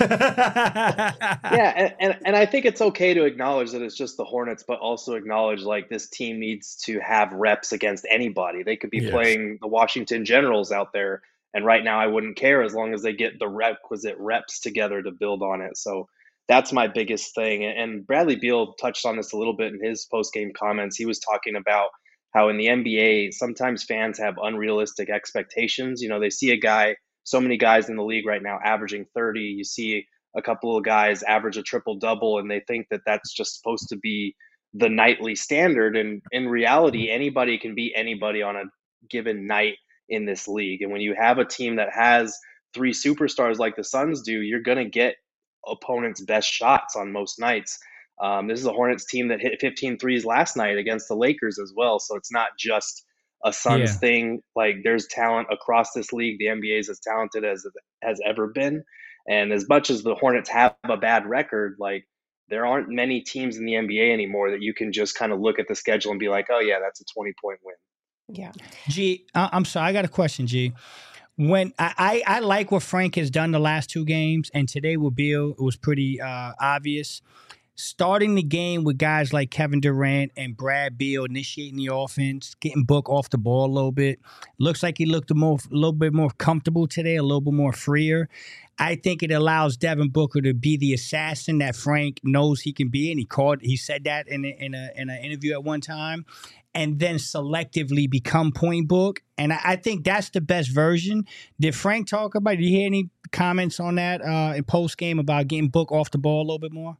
yeah, and, and and I think it's okay to acknowledge that it's just the Hornets, but also acknowledge like this team needs to have reps against anybody. They could be Yes. playing the Washington Generals out there, and right now I wouldn't care as long as they get the requisite reps together to build on it. So that's my biggest thing. And Bradley Beal touched on this a little bit in his post game comments. He was talking about how in the N B A sometimes fans have unrealistic expectations. You know, they see a guy, so many guys in the league right now averaging thirty. You see a couple of guys average a triple double, and they think that that's just supposed to be the nightly standard. And in reality, anybody can beat anybody on a given night in this league. And when you have a team that has three superstars like the Suns do, you're going to get opponents' best shots on most nights. Um, this is a Hornets team that hit fifteen threes last night against the Lakers as well. So it's not just a Suns Yeah. thing. Like there's talent across this league. The N B A is as talented as has ever been. And as much as the Hornets have a bad record, like there aren't many teams in the N B A anymore that you can just kind of look at the schedule and be like, oh yeah, that's a twenty point win. Yeah. G, I- I'm sorry. I got a question, G. When I, I, I like what Frank has done the last two games, and today with Beal, it was pretty uh, obvious. Starting the game with guys like Kevin Durant and Brad Beal initiating the offense, getting Book off the ball a little bit. Looks like he looked a, more, a little bit more comfortable today, a little bit more freer. I think it allows Devin Booker to be the assassin that Frank knows he can be, and he called. He said that in a, in a in an interview at one time, and then selectively become point book. And I, I think that's the best version. Did Frank talk about? Did you hear any comments on that uh, in post game about getting Book off the ball a little bit more?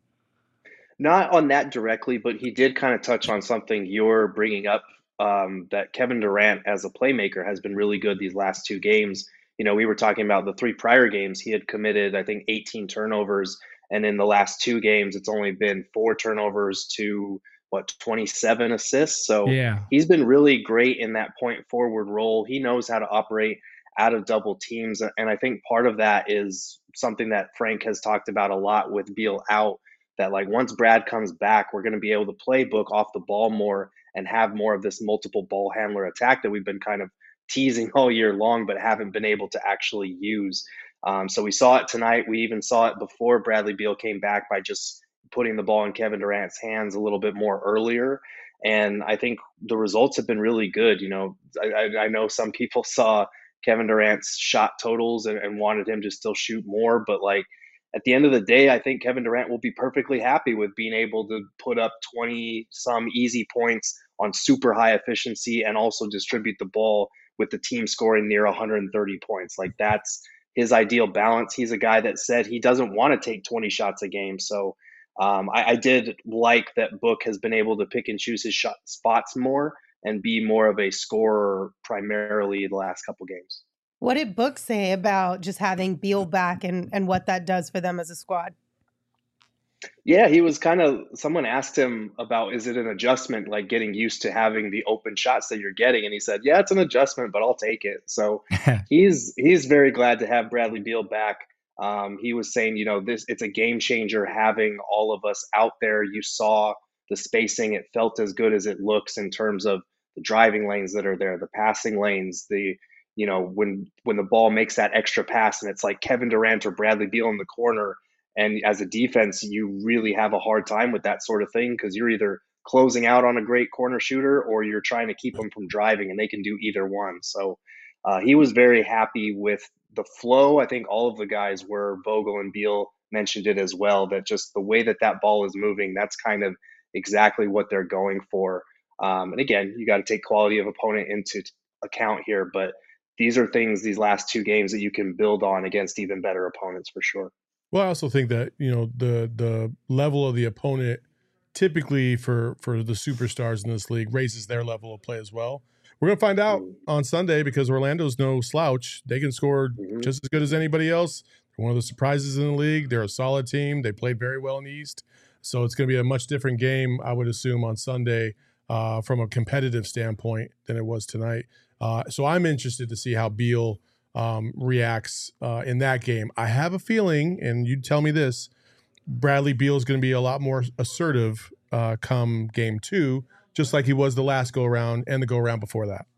Not on that directly, but he did kind of touch on something you're bringing up, um, that Kevin Durant as a playmaker has been really good these last two games. You know, we were talking about the three prior games. He had committed, I think, eighteen turnovers. And in the last two games, it's only been four turnovers to, what, twenty-seven assists. So Yeah. he's been really great in that point forward role. He knows how to operate out of double teams. And I think part of that is something that Frank has talked about a lot with Beal out, that like once Brad comes back, we're going to be able to play Book off the ball more and have more of this multiple ball handler attack that we've been kind of teasing all year long, but haven't been able to actually use. Um, so we saw it tonight. We even saw it before Bradley Beal came back by just putting the ball in Kevin Durant's hands a little bit more earlier. And I think the results have been really good. You know, I, I know some people saw Kevin Durant's shot totals and, and wanted him to still shoot more, but like, at the end of the day, I think Kevin Durant will be perfectly happy with being able to put up twenty some easy points on super high efficiency and also distribute the ball with the team scoring near one hundred thirty points. Like that's his ideal balance. He's a guy that said he doesn't want to take twenty shots a game. So um, I, I did like that Book has been able to pick and choose his shot spots more and be more of a scorer primarily the last couple games. What did Book say about just having Beal back and, and what that does for them as a squad? Yeah, he was kind of, someone asked him about, is it an adjustment, like getting used to having the open shots that you're getting? And he said, yeah, it's an adjustment, but I'll take it. So he's he's very glad to have Bradley Beal back. Um, he was saying, you know, this it's a game changer having all of us out there. You saw the spacing. It felt as good as it looks in terms of the driving lanes that are there, the passing lanes, the, you know, when when the ball makes that extra pass and it's like Kevin Durant or Bradley Beal in the corner. And as a defense, you really have a hard time with that sort of thing because you're either closing out on a great corner shooter or you're trying to keep them from driving, and they can do either one. So uh, he was very happy with the flow. I think all of the guys were. Vogel and Beal mentioned it as well, that just the way that that ball is moving, that's kind of exactly what they're going for. Um, and again, you got to take quality of opponent into account here, but these are things, these last two games that you can build on against even better opponents for sure. Well, I also think that, you know, the the level of the opponent typically for, for the superstars in this league raises their level of play as well. We're going to find out on Sunday because Orlando's no slouch. They can score mm-hmm. just as good as anybody else. They're one of the surprises in the league. They're a solid team. They played very well in the East. So it's going to be a much different game, I would assume, on Sunday uh, from a competitive standpoint than it was tonight. Uh, so I'm interested to see how Beal Um, reacts uh, in that game. I have a feeling, and you tell me this, Bradley Beal is going to be a lot more assertive uh, come game two, just like he was the last go-around and the go-around before that.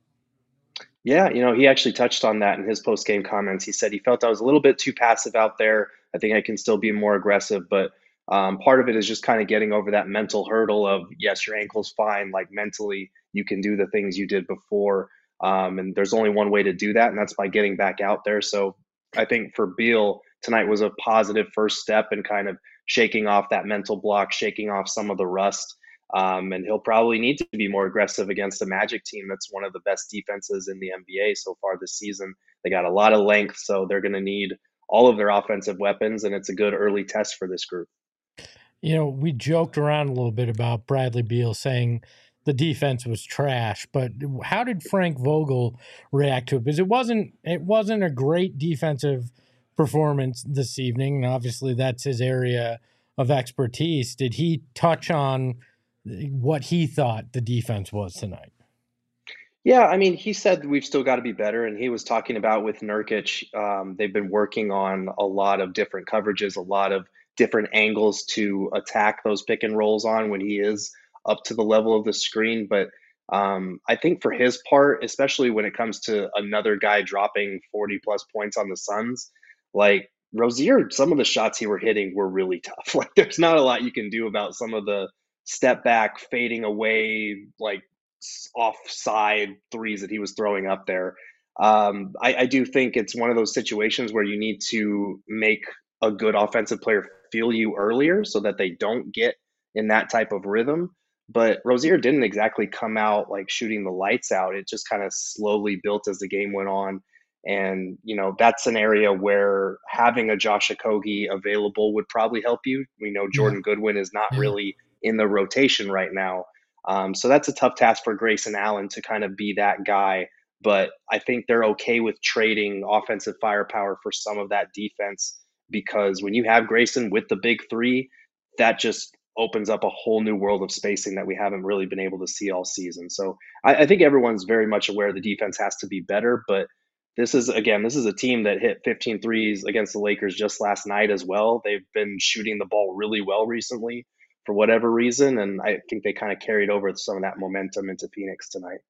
Yeah, you know, he actually touched on that in his post-game comments. He said he felt I was a little bit too passive out there. I think I can still be more aggressive, but um, part of it is just kind of getting over that mental hurdle of, yes, your ankle's fine, like mentally you can do the things you did before. Um, and there's only one way to do that, and that's by getting back out there. So I think for Beal, tonight was a positive first step in kind of shaking off that mental block, shaking off some of the rust. Um, and he'll probably need to be more aggressive against a Magic team that's one of the best defenses in the N B A so far this season. They got a lot of length, so they're going to need all of their offensive weapons, and it's a good early test for this group. You know, we joked around a little bit about Bradley Beal saying the defense was trash, but how did Frank Vogel react to it? Because it wasn't it wasn't a great defensive performance this evening, and obviously that's his area of expertise. Did he touch on what he thought the defense was tonight? Yeah, I mean, he said we've still got to be better, and he was talking about with Nurkic, um, they've been working on a lot of different coverages, a lot of different angles to attack those pick and rolls on when he is up to the level of the screen. But um, I think for his part, especially when it comes to another guy dropping forty plus points on the Suns, like Rozier, some of the shots he were hitting were really tough. Like there's not a lot you can do about some of the step back, fading away, like offside threes that he was throwing up there. Um, I, I do think it's one of those situations where you need to make a good offensive player feel you earlier so that they don't get in that type of rhythm. But Rozier didn't exactly come out like shooting the lights out. It just kind of slowly built as the game went on. And, you know, that's an area where having a Josh Okogie available would probably help you. We know Jordan yeah. Goodwin is not yeah. really in the rotation right now. Um, so that's a tough task for Grayson Allen to kind of be that guy. But I think they're okay with trading offensive firepower for some of that defense, because when you have Grayson with the big three, that just opens up a whole new world of spacing that we haven't really been able to see all season. So I, I think everyone's very much aware the defense has to be better, but this is, again, this is a team that hit fifteen threes against the Lakers just last night as well. They've been shooting the ball really well recently for whatever reason, and I think they kind of carried over some of that momentum into Phoenix tonight.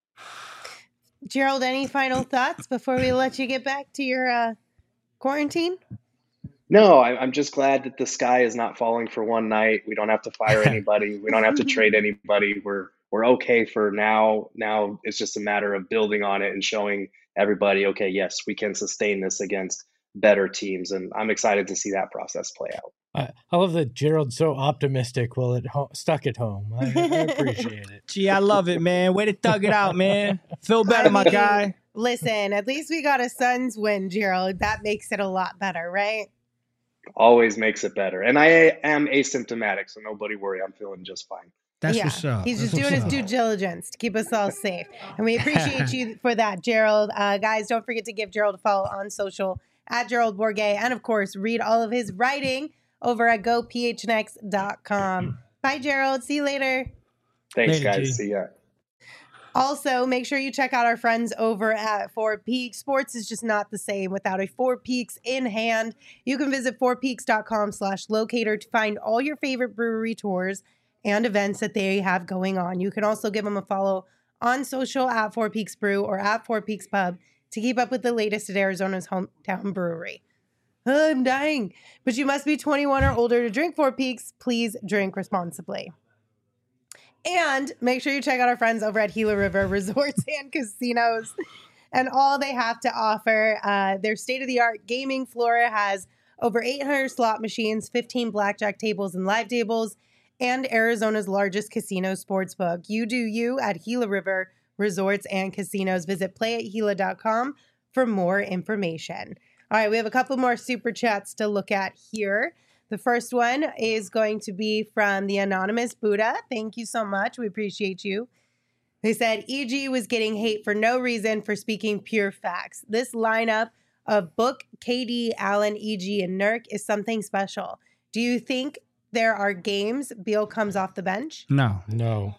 Gerald, any final thoughts before we let you get back to your uh, quarantine? No, I, I'm just glad that the sky is not falling for one night. We don't have to fire anybody. We don't have to trade anybody. We're we're okay for now. Now it's just a matter of building on it and showing everybody, okay, yes, we can sustain this against better teams. And I'm excited to see that process play out. I, I love that Gerald's so optimistic while at ho- stuck at home. I, I appreciate it. Gee, I love it, man. Way to thug it out, man. Feel better, my guy. Listen, at least we got a Suns win, Gerald. That makes it a lot better, right? Always makes it better. And I am asymptomatic, so nobody worry. I'm feeling just fine. That's yeah, what's up. he's just That's doing his what's due up. diligence to keep us all safe. And we appreciate you for that, Gerald. Uh, guys, don't forget to give Gerald a follow on social at Gerald Bourget. And of course, read all of his writing over at go p h n x dot com. Bye, Gerald. See you later. Thanks, Later, guys. G. See ya. Also, make sure you check out our friends over at Four Peaks. Sports is just not the same without a Four Peaks in hand. You can visit four peaks dot com slash locator to find all your favorite brewery tours and events that they have going on. You can also give them a follow on social at Four Peaks Brew or at Four Peaks Pub to keep up with the latest at Arizona's hometown brewery. Oh, I'm dying. But you must be twenty-one or older to drink Four Peaks. Please drink responsibly. And make sure you check out our friends over at Gila River Resorts and Casinos and all they have to offer. Uh, their state-of-the-art gaming floor has over eight hundred slot machines, fifteen blackjack tables and live tables, and Arizona's largest casino sportsbook. You do you at Gila River Resorts and Casinos. Visit play at gila dot com for more information. All right, we have a couple more super chats to look at here. The first one is going to be from the Anonymous Buddha. Thank you so much. We appreciate you. They said E G was getting hate for no reason for speaking pure facts. This lineup of Book, K D, Allen, E G, and Nurk is something special. Do you think there are games Beal comes off the bench? No. No.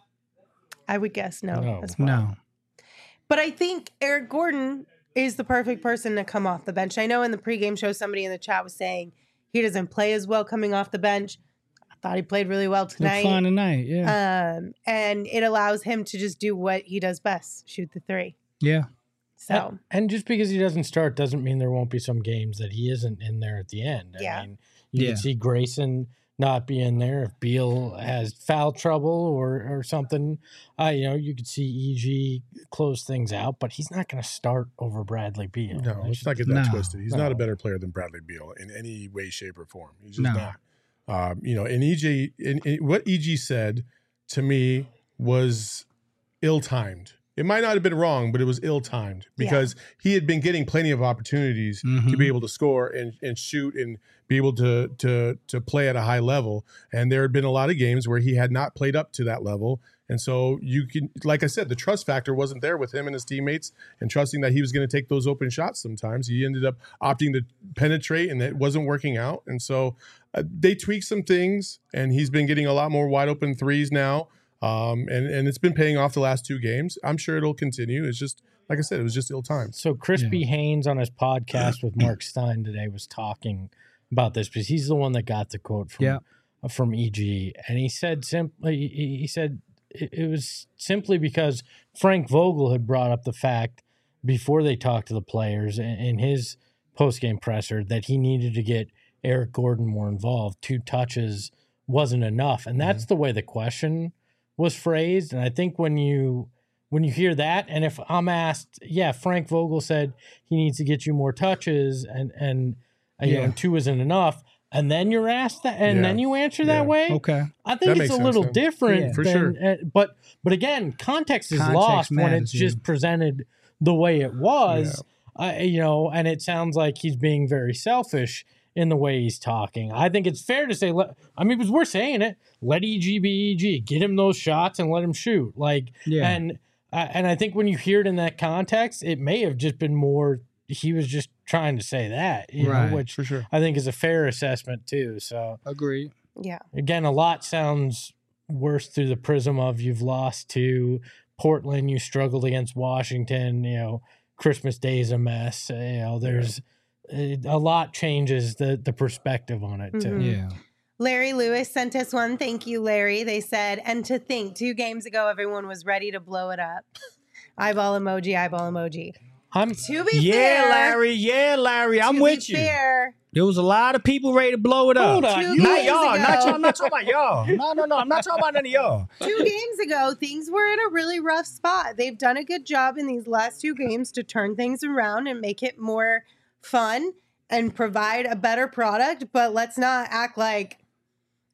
I would guess no, No. as well. No. But I think Eric Gordon is the perfect person to come off the bench. I know in the pregame show, somebody in the chat was saying he doesn't play as well coming off the bench. I thought he played really well Look tonight. fine tonight. Yeah. Um, and it allows him to just do what he does best, shoot the three. yeah. So, And, and just because he doesn't start doesn't mean there won't be some games that he isn't in there at the end. I Yeah. mean, you Yeah. can see Grayson not be in there if Beal has foul trouble or or something. Uh, you know, you could see E G close things out, but he's not going to start over Bradley Beal. No, let's not get that No. twisted. He's not a No. better player than Bradley Beal in any way, shape, or form. He's just No. not. Um, you know, and E G, and, and what E G said to me was ill-timed. It might not have been wrong, but it was ill-timed because he had been getting plenty of opportunities to Mhm. be able to score and, and shoot and be able to to to play at a high level. And there had been a lot of games where he had not played up to that level. And so you can, like I said, the trust factor wasn't there with him and his teammates and trusting that he was going to take those open shots sometimes. He ended up opting to penetrate and it wasn't working out. And so uh, they tweaked some things and he's been getting a lot more wide open threes now. Um, and, and it's been paying off the last two games. I'm sure it'll continue. It's just, like I said, it was just ill-timed. So Crispy Yeah. Haynes on his podcast with Mark Stein today was talking about this because he's the one that got the quote from Yeah. from E G, and he said simply he, he said it, it was simply because Frank Vogel had brought up the fact before they talked to the players in, in his post-game presser that he needed to get Eric Gordon more involved. Two touches wasn't enough, and that's the way the question was phrased. And I think when you when you hear that, and if I'm asked, yeah, Frank Vogel said he needs to get you more touches, and and uh, you Yeah. know, and two isn't enough, and then you're asked that, and Yeah. then you answer Yeah. that way. Okay. I That think it's makes a sense, little yeah. different, Yeah. For than, sure. uh, but but again, context is Context lost when matters, it's just yeah. presented the way it was. Uh, you know, and it sounds like he's being very selfish in the way he's talking. I think it's fair to say, let, I mean, because we're saying it, let E G be E G, get him those shots and let him shoot. Like, Yeah. and uh, and I think when you hear it in that context, it may have just been more. He was just trying to say that, you Right. know, which For sure. I think is a fair assessment too. So Agreed. yeah. again, a lot sounds worse through the prism of you've lost to Portland, you struggled against Washington, you know, Christmas Day is a mess. uh, You know, there's uh, a lot changes the the perspective on it too. Mhm. Yeah. Larry Lewis sent us one. Thank you, Larry. They said, and to think, two games ago, everyone was ready to blow it up. Eyeball emoji, eyeball emoji. I'm To be Yeah, fair, Larry. Yeah, Larry. I'm to with be you. Fair, There was a lot of people ready to blow it up. Hold on, Two you- Not games y'all. ago- Not y'all. I'm not talking about y'all. No, no, no. I'm not talking about none of y'all. two games ago, things were in a really rough spot. They've done a good job in these last two games to turn things around and make it more fun and provide a better product. But let's not act like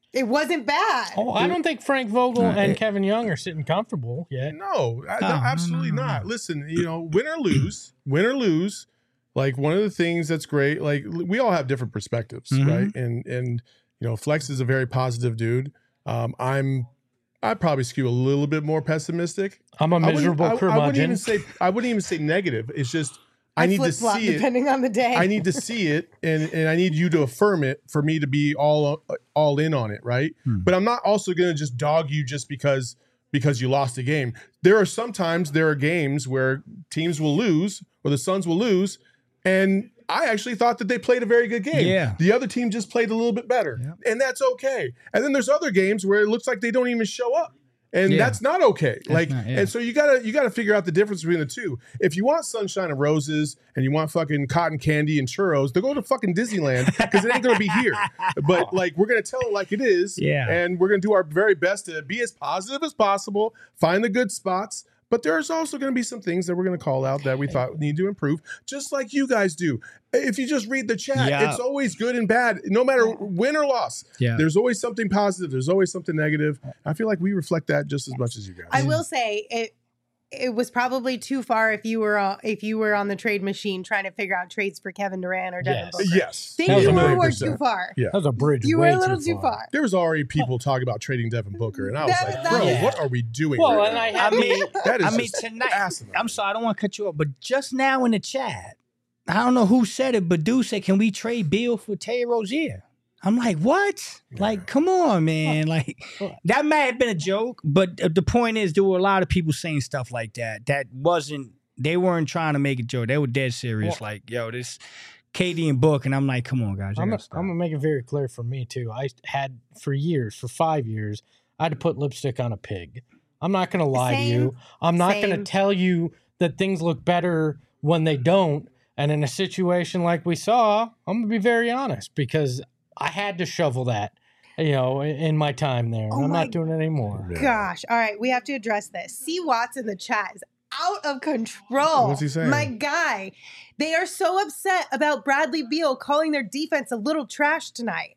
It wasn't bad. Oh, I don't think Frank Vogel Uh, and it- Kevin Young are sitting comfortable yet. No, I- Oh, no, no, absolutely no, no, not. no. Listen, you know, win or lose, win or lose. Like one of the things that's great, like we all have different perspectives, Mhm. right? And and you know, Flex is a very positive dude. Um, I'm, I probably skew a little bit more pessimistic. I'm a I wouldn't- miserable I, I wouldn't even curmudgeon. say I wouldn't even say negative. It's just I, need to flip-flop see it. depending on the day. I need to see it, and and I need you to affirm it for me to be all all in on it, right? Hmm. But I'm not also going to just dog you just because because you lost a game. There are sometimes there are games where teams will lose or the Suns will lose, and I actually thought that they played a very good game. Yeah. The other team just played a little bit better, Yeah. and that's okay. And then there's other games where it looks like they don't even show up. And Yeah. that's not okay. like, not- yeah. and so you gotta you gotta figure out the difference between the two. If you want sunshine and roses and you want fucking cotton candy and churros, then go to fucking Disneyland because it ain't gonna be here. But like, we're gonna tell it like it is, Yeah. and we're gonna do our very best to be as positive as possible, find the good spots. But there's also going to be some things that we're going to call out that we thought need to improve, just like you guys do. If you just read the chat, Yeah. it's always good and bad, no matter win or loss. Yeah. There's always something positive. There's always something negative. I feel like we reflect that just as much as you guys. I will say it. It was probably too far if you were uh, if you were on the trade machine trying to figure out trades for Kevin Durant or Devin Yes. Booker. Yes. Think That was you a were, million were percent. too far. Yeah. That was a bridge. You were way a little too far. There was already people talking about trading Devin Booker, and I was That- like, that- bro, Yeah. what are we doing? Well, right and now? I I have mean, that is I mean just tonight. asinine. I'm sorry, I don't want to cut you off, but just now in the chat, I don't know who said it, but dude said, "Can we trade Bill for Terry Rozier?" I'm like, what? Like, come on, man. Like, that may have been a joke, but uh, the point is, there were a lot of people saying stuff like that. That wasn't, they weren't trying to make a joke. They were dead serious. Well- like, yo, this K D and Book. And I'm like, come on, guys. you I'm, gotta I'm stop. gonna make it very clear for me too. I had for years, for five years, I had to put lipstick on a pig. I'm not gonna lie Same. to you. I'm not gonna Same. tell you that things look better when they don't. And in a situation like we saw, I'm gonna be very honest because I had to shovel that, you know, in, in my time there. And Oh I'm my not doing it anymore. Gosh. All right, we have to address this. C. Watts in the chat is out of control. What's he saying? My guy. They are so upset about Bradley Beal calling their defense a little trash tonight.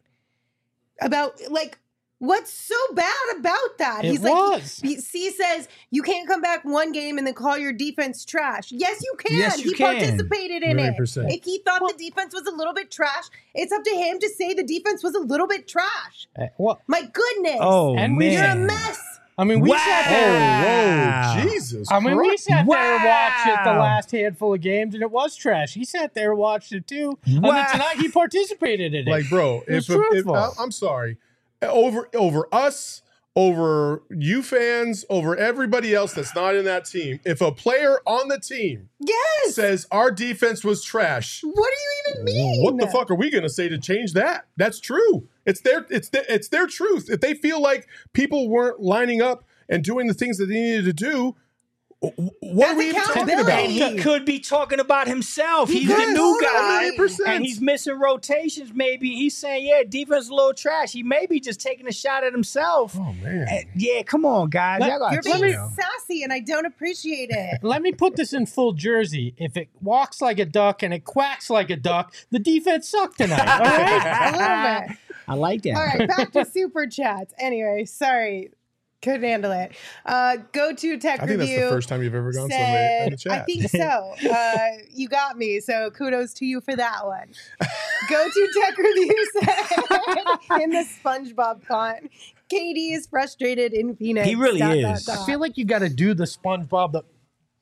About like what's so bad about that? It He's was. like he- C says you can't come back one game and then call your defense trash. Yes, you can. Yes, you he can. participated in Million it. percent. If he thought the defense was a little bit trash, it's up to him to say the defense was a little bit trash. Uh, Well, My goodness. Oh, And we- man. You're a mess. I mean, we Wow. sat there. Wow. Whoa, Jesus! I mean, we Christ. sat there and watched it the Wow. last handful of games, and it was trash. He sat there and watched it too, and Wow. then tonight he participated in it. Like, bro, It's if, if truthful. I- I'm sorry, over over us, over you fans, over everybody else that's not in that team. If a player on the team Yes. says our defense was trash, What do you even mean? what the fuck are we going to say to change that? That's true. It's their it's their, it's their truth. If they feel like people weren't lining up and doing the things that they needed to do, wh- what That's are we even talking accountability. about? And he could be talking about himself. He He's could. the new Oh, guy, one hundred percent. and he's missing rotations. Maybe he's saying, "Yeah, defense is a little trash." He may be just taking a shot at himself. Oh man. Uh, yeah, come on, guys. Let- Y'all gotta You're chill. being sassy and I don't appreciate it. Let me put this in full jersey. If it walks like a duck and it quacks like a duck, the defense sucked tonight. All right. A little bit. I like that. All right, back to super chats. Anyway, sorry. Couldn't handle it. Uh, go to Tech I think Review. that's the first time you've ever gone somewhere said- in the chat. I think so. Uh, you got me. So kudos to you for that one. Go to Tech Review said in the SpongeBob font. K D is frustrated in Phoenix. He really Dot, is. dot, I dot. feel like you got to do the SpongeBob the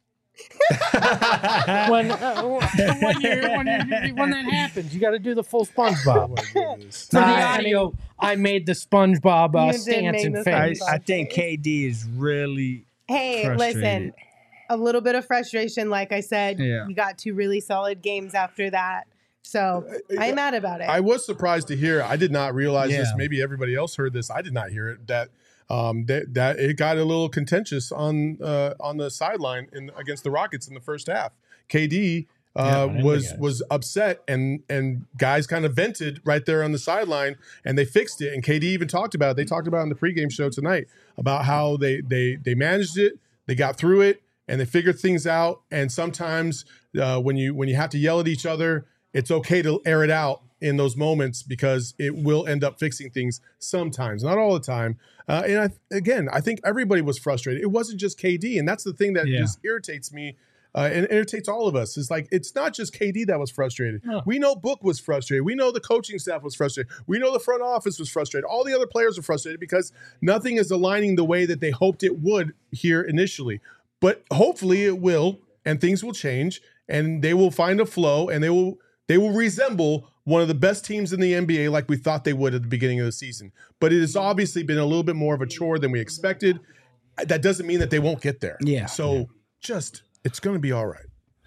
when uh, when, you're, when, you when that happens, you got to do the full SpongeBob. For the Nah, audio, I made the SpongeBob uh, You did stance make and the face. I, I think K D is really. Hey, Frustrated. listen, a little bit of frustration. Like I said, Yeah. we got two really solid games after that. So I'm mad about it. I was surprised to hear. I did not realize this. Yeah. Maybe everybody else heard this. I did not hear it. That um, that, that it got a little contentious on uh, on the sideline in against the Rockets in the first half. K D Yeah, uh, I didn't was think it was upset, and and guys kind of vented right there on the sideline, and they fixed it. And K D even talked about it. They talked about it in the pregame show tonight about how they they they managed it, they got through it, and they figured things out. And sometimes uh, when you when you have to yell at each other, it's okay to air it out in those moments because it will end up fixing things sometimes, not all the time. Uh, and I, again, I think everybody was frustrated. It wasn't just K D, and that's the thing that Yeah. just irritates me. Uh, and it irritates all of us. It's like, it's not just K D that was frustrated. No. We know Book was frustrated. We know the coaching staff was frustrated. We know the front office was frustrated. All the other players are frustrated because nothing is aligning the way that they hoped it would here initially. But hopefully it will, and things will change, and they will find a flow, and they will they will resemble one of the best teams in the N B A like we thought they would at the beginning of the season. But it has obviously been a little bit more of a chore than we expected. That doesn't mean that they won't get there. Yeah. So just... it's going to be all right.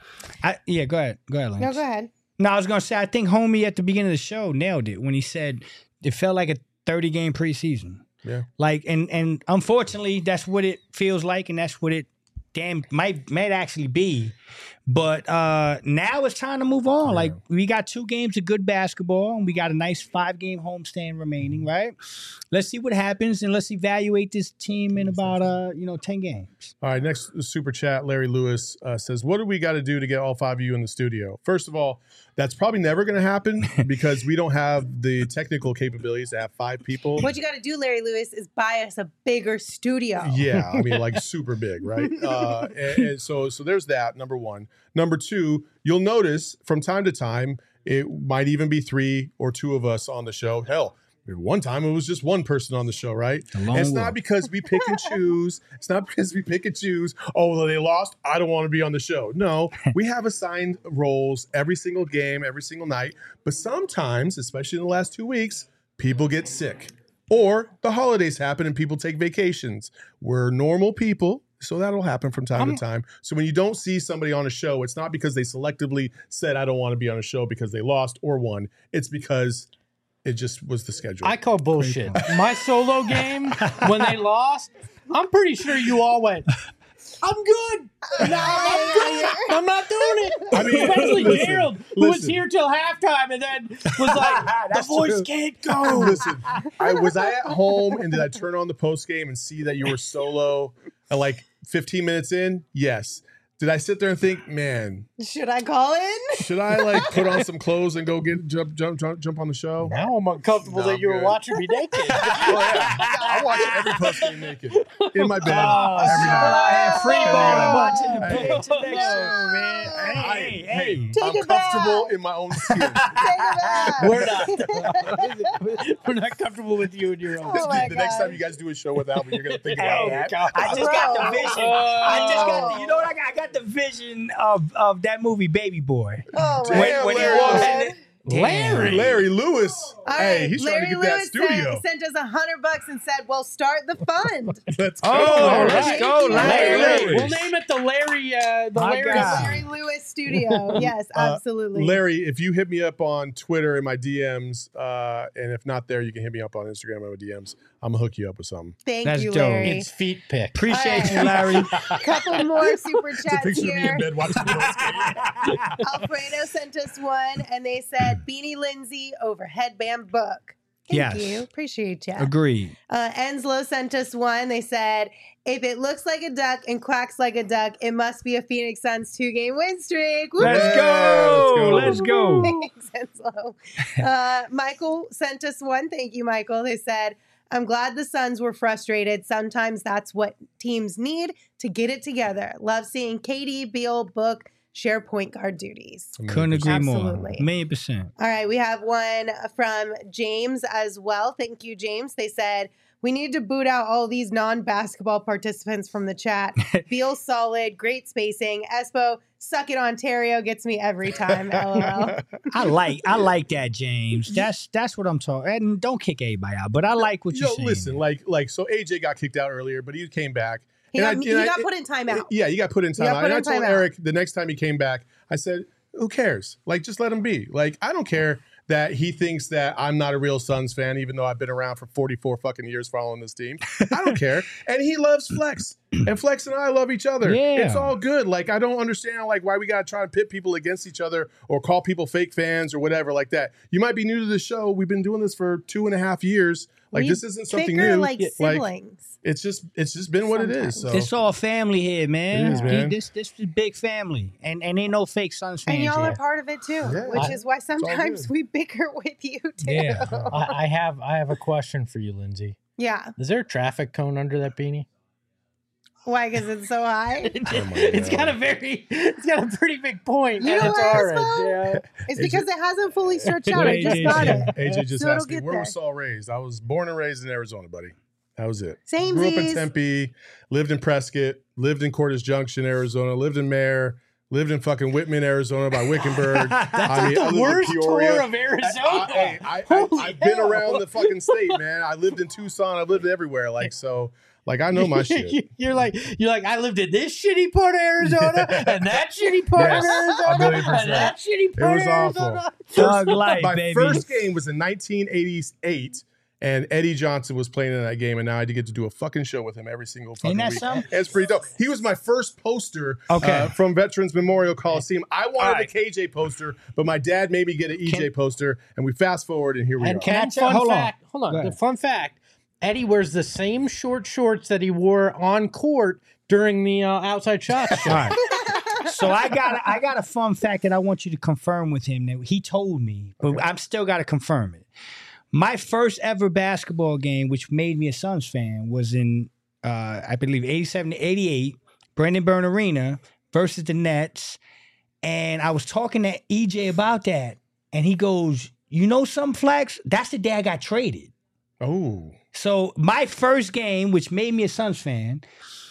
I, yeah, go ahead. Go ahead, Lance. No, go ahead. No, I was going to say, I think Homie at the beginning of the show nailed it when he said it felt like a thirty-game preseason. Yeah. Like, and and unfortunately, that's what it feels like, and that's what it damn might might actually be. But uh, now it's time to move on. Yeah. Like, we got two games of good basketball, and we got a nice five-game homestand remaining, right? Let's see what happens, and let's evaluate this team in about, uh, you know, ten games. All right, next super chat, Larry Lewis uh, says, what do we got to do to get all five of you in the studio? First of all, that's probably never going to happen because we don't have the technical capabilities to have five people. What you got to do, Larry Lewis, is buy us a bigger studio. Yeah, I mean, like super big, right? Uh, and, and so, so there's that, number one. Number two, you'll notice from time to time, it might even be three or two of us on the show. Hell, one time it was just one person on the show, right? And it's walk. not because we pick and choose. It's not because we pick and choose. Oh, well, they lost. I don't want to be on the show. No, we have assigned roles every single game, every single night. But sometimes, especially in the last two weeks, people get sick. Or the holidays happen and people take vacations. We're normal people. So that'll happen from time I'm, to time. So when you don't see somebody on a show, it's not because they selectively said, I don't want to be on a show because they lost or won. It's because it just was the schedule. I call bullshit. My solo game, when they lost, I'm pretty sure you all went, I'm good. No, I'm good. I'm not doing it. I mean, especially listen, Gerald, who was listen. here till halftime and then was like, the voice true. can't go. Listen, I was I at home and did I turn on the post game and see that you were solo at like fifteen minutes in? Yes. Did I sit there and think, man, Should I call in? should I like put on some clothes and go get jump jump jump, jump on the show? Now I'm uncomfortable No, that I'm you were good. watching me naked. Oh, yeah. I watch every post game naked in my bed Oh, every night. free ball watching the Hey. page next No. show, man. Hey, I- hey, hey, hey. Take I'm it back. comfortable in my own skin. Take it back. We're not. We're not comfortable with you and your own. Oh my the next God. time you guys do a show without me, you're gonna think about Hey, that. I just got the Bro. vision. I just got the, you know what I got? I got the vision of, of that movie Baby Boy. Oh, Damn, my when he Larry. walks God. in the, Larry. Larry Lewis. All hey, right, he's Larry trying to get Lewis that studio. Sent, sent us a hundred bucks and said, "Well, start the fund." Let's go. Oh, All let's right. go, Larry. Larry. We'll name it the Larry. Uh, the My Larry. God. Larry Lewis Studio. Yes, Uh, absolutely. Larry, if you hit me up on Twitter in my D Ms, uh, and if not there, you can hit me up on Instagram in my D Ms. I'm gonna hook you up with something. Thank That's you, dope. Larry. It's feet pick. Appreciate All you, Larry. Couple more super It's a chats picture of me in here. bed watching the Bulls game. Alfredo sent us one, and they said Beanie Lindsay over headband book. Thank Yes. you. Appreciate you. Agreed. Uh, Enslow sent us one. They said, if it looks like a duck and quacks like a duck, it must be a Phoenix Suns two-game win streak. Woo-hoo! Let's Yeah, go. let's Let's go. Thanks, Enslow. Uh, Michael sent us one. Thank you, Michael. They said, I'm glad the Suns were frustrated. Sometimes that's what teams need to get it together. Love seeing K D, Beal, Book share point guard duties. Couldn't agree Absolutely. more. Million percent. All right, we have one from James as well. Thank you, James. They said, we need to boot out all these non-basketball participants from the chat. Beal solid, great spacing. Espo, suck it Ontario, gets me every time, LOL. I like I like that, James. That's that's what I'm talking. And don't kick everybody out, but I like what Yo, you're saying. listen, like, like, so A J got kicked out earlier, but he came back. He And got, I- he and I- got put in timeout. Yeah, you got put in You got timeout. put And I in told timeout. Eric the next time he came back, I said, who cares? Like, just let him be. Like, I don't care that he thinks that I'm not a real Suns fan, even though I've been around for forty-four fucking years following this team. I don't care. And he loves Flex. And Flex and I love each other. Yeah. It's all good. Like, I don't understand, like, why we got to try and pit people against each other or call people fake fans or whatever like that. You might be new to the show. We've been doing this for two and a half years. Like We this isn't something bicker new. like siblings. It's just it's just been what it is. So It's all family here, man. It is, man. This this is big family, and and ain't no fake Suns fans And y'all here. are part of it too, Yeah. which I- is why all sometimes good. we bicker with you too. Yeah. I, I have I have a question for you, Lindsay. Yeah. Is there a traffic cone under that beanie? Why? Because it's so high. Oh my It's God. got a very, it's got a pretty big point, You and know it's what, orange. Espo? Yeah. It's because it hasn't fully stretched out. I just A J got said. it. A J just So it'll asked me get where there. was Saul raised. I was born and raised in Arizona, buddy. That was it. Same Grew up in Z's. Tempe, lived in Prescott, lived in Cordes Junction, Arizona, lived in Mare, lived in fucking Whitman, Arizona by Wickenburg. That's I mean, I the lived in worst Peoria. tour of Arizona. I, hey, I, I, Holy I've been hell. around the fucking state, man. I lived in Tucson. I've lived everywhere. Like, so, like, I know my shit. You're like, you're like, I lived in this shitty part of Arizona, and that shitty part Yes, of a Arizona, million percent. and that shitty It part was of awful. Arizona. Thug life, My baby. first game was in nineteen eighty-eight, and Eddie Johnson was playing in that game, and now I get to do a fucking show with him every single fucking Ain't that week. something? It's pretty dope. He was my first poster Okay. uh, from Veterans Memorial Coliseum. I wanted All right. the K J poster, but my dad made me get an E J Can- poster, and we fast forward, and here we And are. Can I and tell- fun hold on. fact, hold Go on. The ahead. fun fact: Eddie wears the same short shorts that he wore on court during the uh, outside shots show. All right. So I got I got a fun fact that I want you to confirm with him that he told me, but I'm still got to confirm it. My first ever basketball game, which made me a Suns fan, was in uh, I believe eighty-seven to eighty-eight, Brendan Byrne Arena versus the Nets, and I was talking to E J about that, and he goes, "You know some Flex? That's the day I got traded." Oh, So my first game, which made me a Suns fan,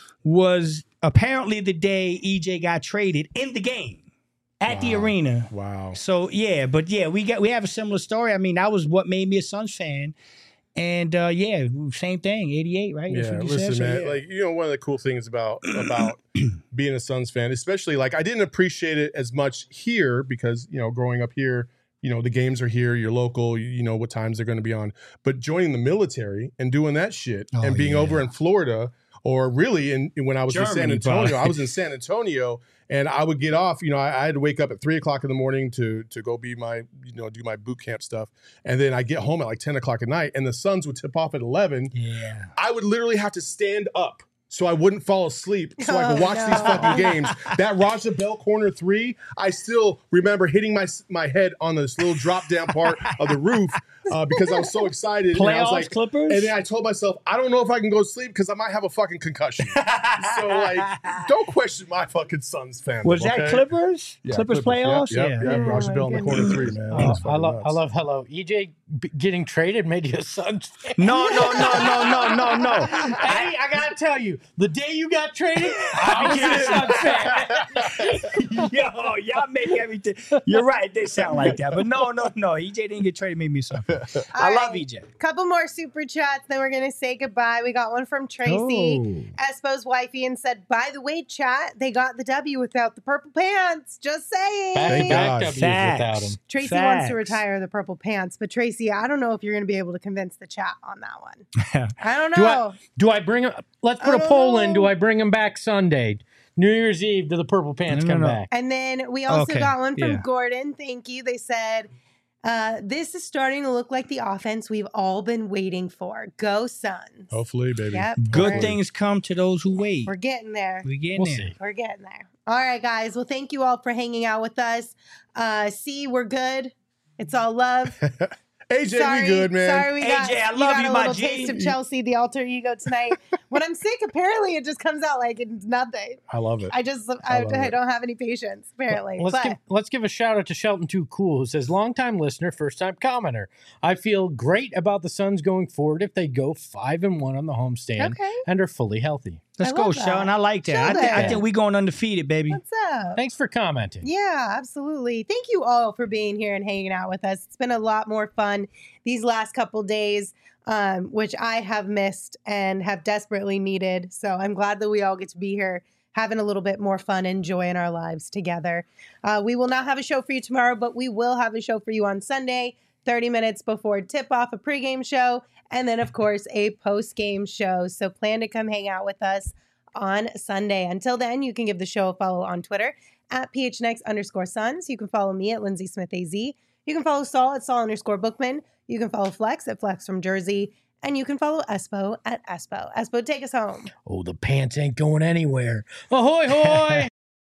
was apparently the day E J got traded in the game at the Wow. arena. wow. So yeah, but yeah, we got we have a similar story. I mean, that was what made me a Suns fan. And uh, yeah, same thing, eighty-eight, right? That's Yeah, what you said? listen, So, man. yeah. Like, you know, one of the cool things about about being a Suns fan, especially like I didn't appreciate it as much here because you know, growing up here, you know, the games are here, you're local, you, you know what times they're going to be on. But joining the military and doing that shit Oh, and being yeah. over in Florida, or really in when I was in San Germany, Antonio, probably. I was in San Antonio, and I would get off. You know, I, I had to wake up at three o'clock in the morning to to go be my, you know, do my boot camp stuff, and then I get home at like ten o'clock at night, and the Suns would tip off at eleven. yeah. I would literally have to stand up so I wouldn't fall asleep so I could Oh, watch no. these fucking games. That Raja Bell corner three, I still remember hitting my my head on this little drop down part of the roof uh, because I was so excited. And I was Playoffs, like, Clippers? and then I told myself, I don't know if I can go to sleep because I might have a fucking concussion. So like, don't question my fucking Suns fandom. Was that okay? Clippers? Yeah, Clippers, playoffs? Yep, yeah. yep, yep. Oh, Raja my Bell in the corner goodness. three, man. Oh, That was I fucking love, I nuts. love hello. E J b- getting traded made you a Suns fan. No, no, no, no, no, no, no. Eddie, I gotta tell you, the day you got traded, I became a Suns fan. Yo, y'all make everything. You're right. They sound like that, but no, no, no. E J didn't get traded. Made me something. I All love right. E J. Couple more super chats, then we're gonna say goodbye. We got one from Tracy, Oh. Espo's wifey, and said, "By the way, chat, they got the W without the purple pants." Just saying. Back to Thank back God. W's Facts. without him. Tracy wants to Facts. retire the purple pants, but Tracy, I don't know if you're gonna be able to convince the chat on that one. I don't Do know. I do I bring him? Let's put I a don't poll in. Do know. I bring him back Sunday, New Year's Eve? Do the purple pants No, no, come no. back? And then we also Okay, got one from yeah. Gordon. Thank you. They said, uh, "This is starting to look like the offense we've all been waiting for. Go Suns!" Hopefully, baby. Yep. Good we're- things come to those who wait. We're getting there. We getting We'll there. see. We're getting there. All right, guys. Well, thank you all for hanging out with us. Uh, see, we're good. It's all love. A J, sorry, we good, man. Sorry, we A got, J, I you love got you, a my little G. taste of Chelsea, the alter ego tonight. When I'm sick, apparently it just comes out like it's nothing. I love it. I just, I I, love I, it. don't have any patience, apparently. Let's but give let's give a shout out to Shelton Too Cool, who says, "Longtime listener, first time commenter. I feel great about the Suns going forward if they go five and one on the homestand Okay. and are fully healthy. Let's I go, love that. Sean. I like that. I, thi- I Sheldon. think we going undefeated, baby. what's up? Thanks for commenting. Yeah, absolutely. Thank you all for being here and hanging out with us. It's been a lot more fun these last couple days, um, which I have missed and have desperately needed. So I'm glad that we all get to be here having a little bit more fun and joy in our lives together. Uh, we will not have a show for you tomorrow, but we will have a show for you on Sunday, thirty minutes before tip-off, a pregame show, and then, of course, a post-game show. So plan to come hang out with us on Sunday. Until then, you can give the show a follow on Twitter at PHNX underscore Suns. You can follow me at Lindsay Smith A Z. You can follow Saul at Saul underscore Bookman. You can follow Flex at Flex from Jersey. And you can follow Espo at Espo. Espo, take us home. Oh, the pants ain't going anywhere. Ahoy, hoy!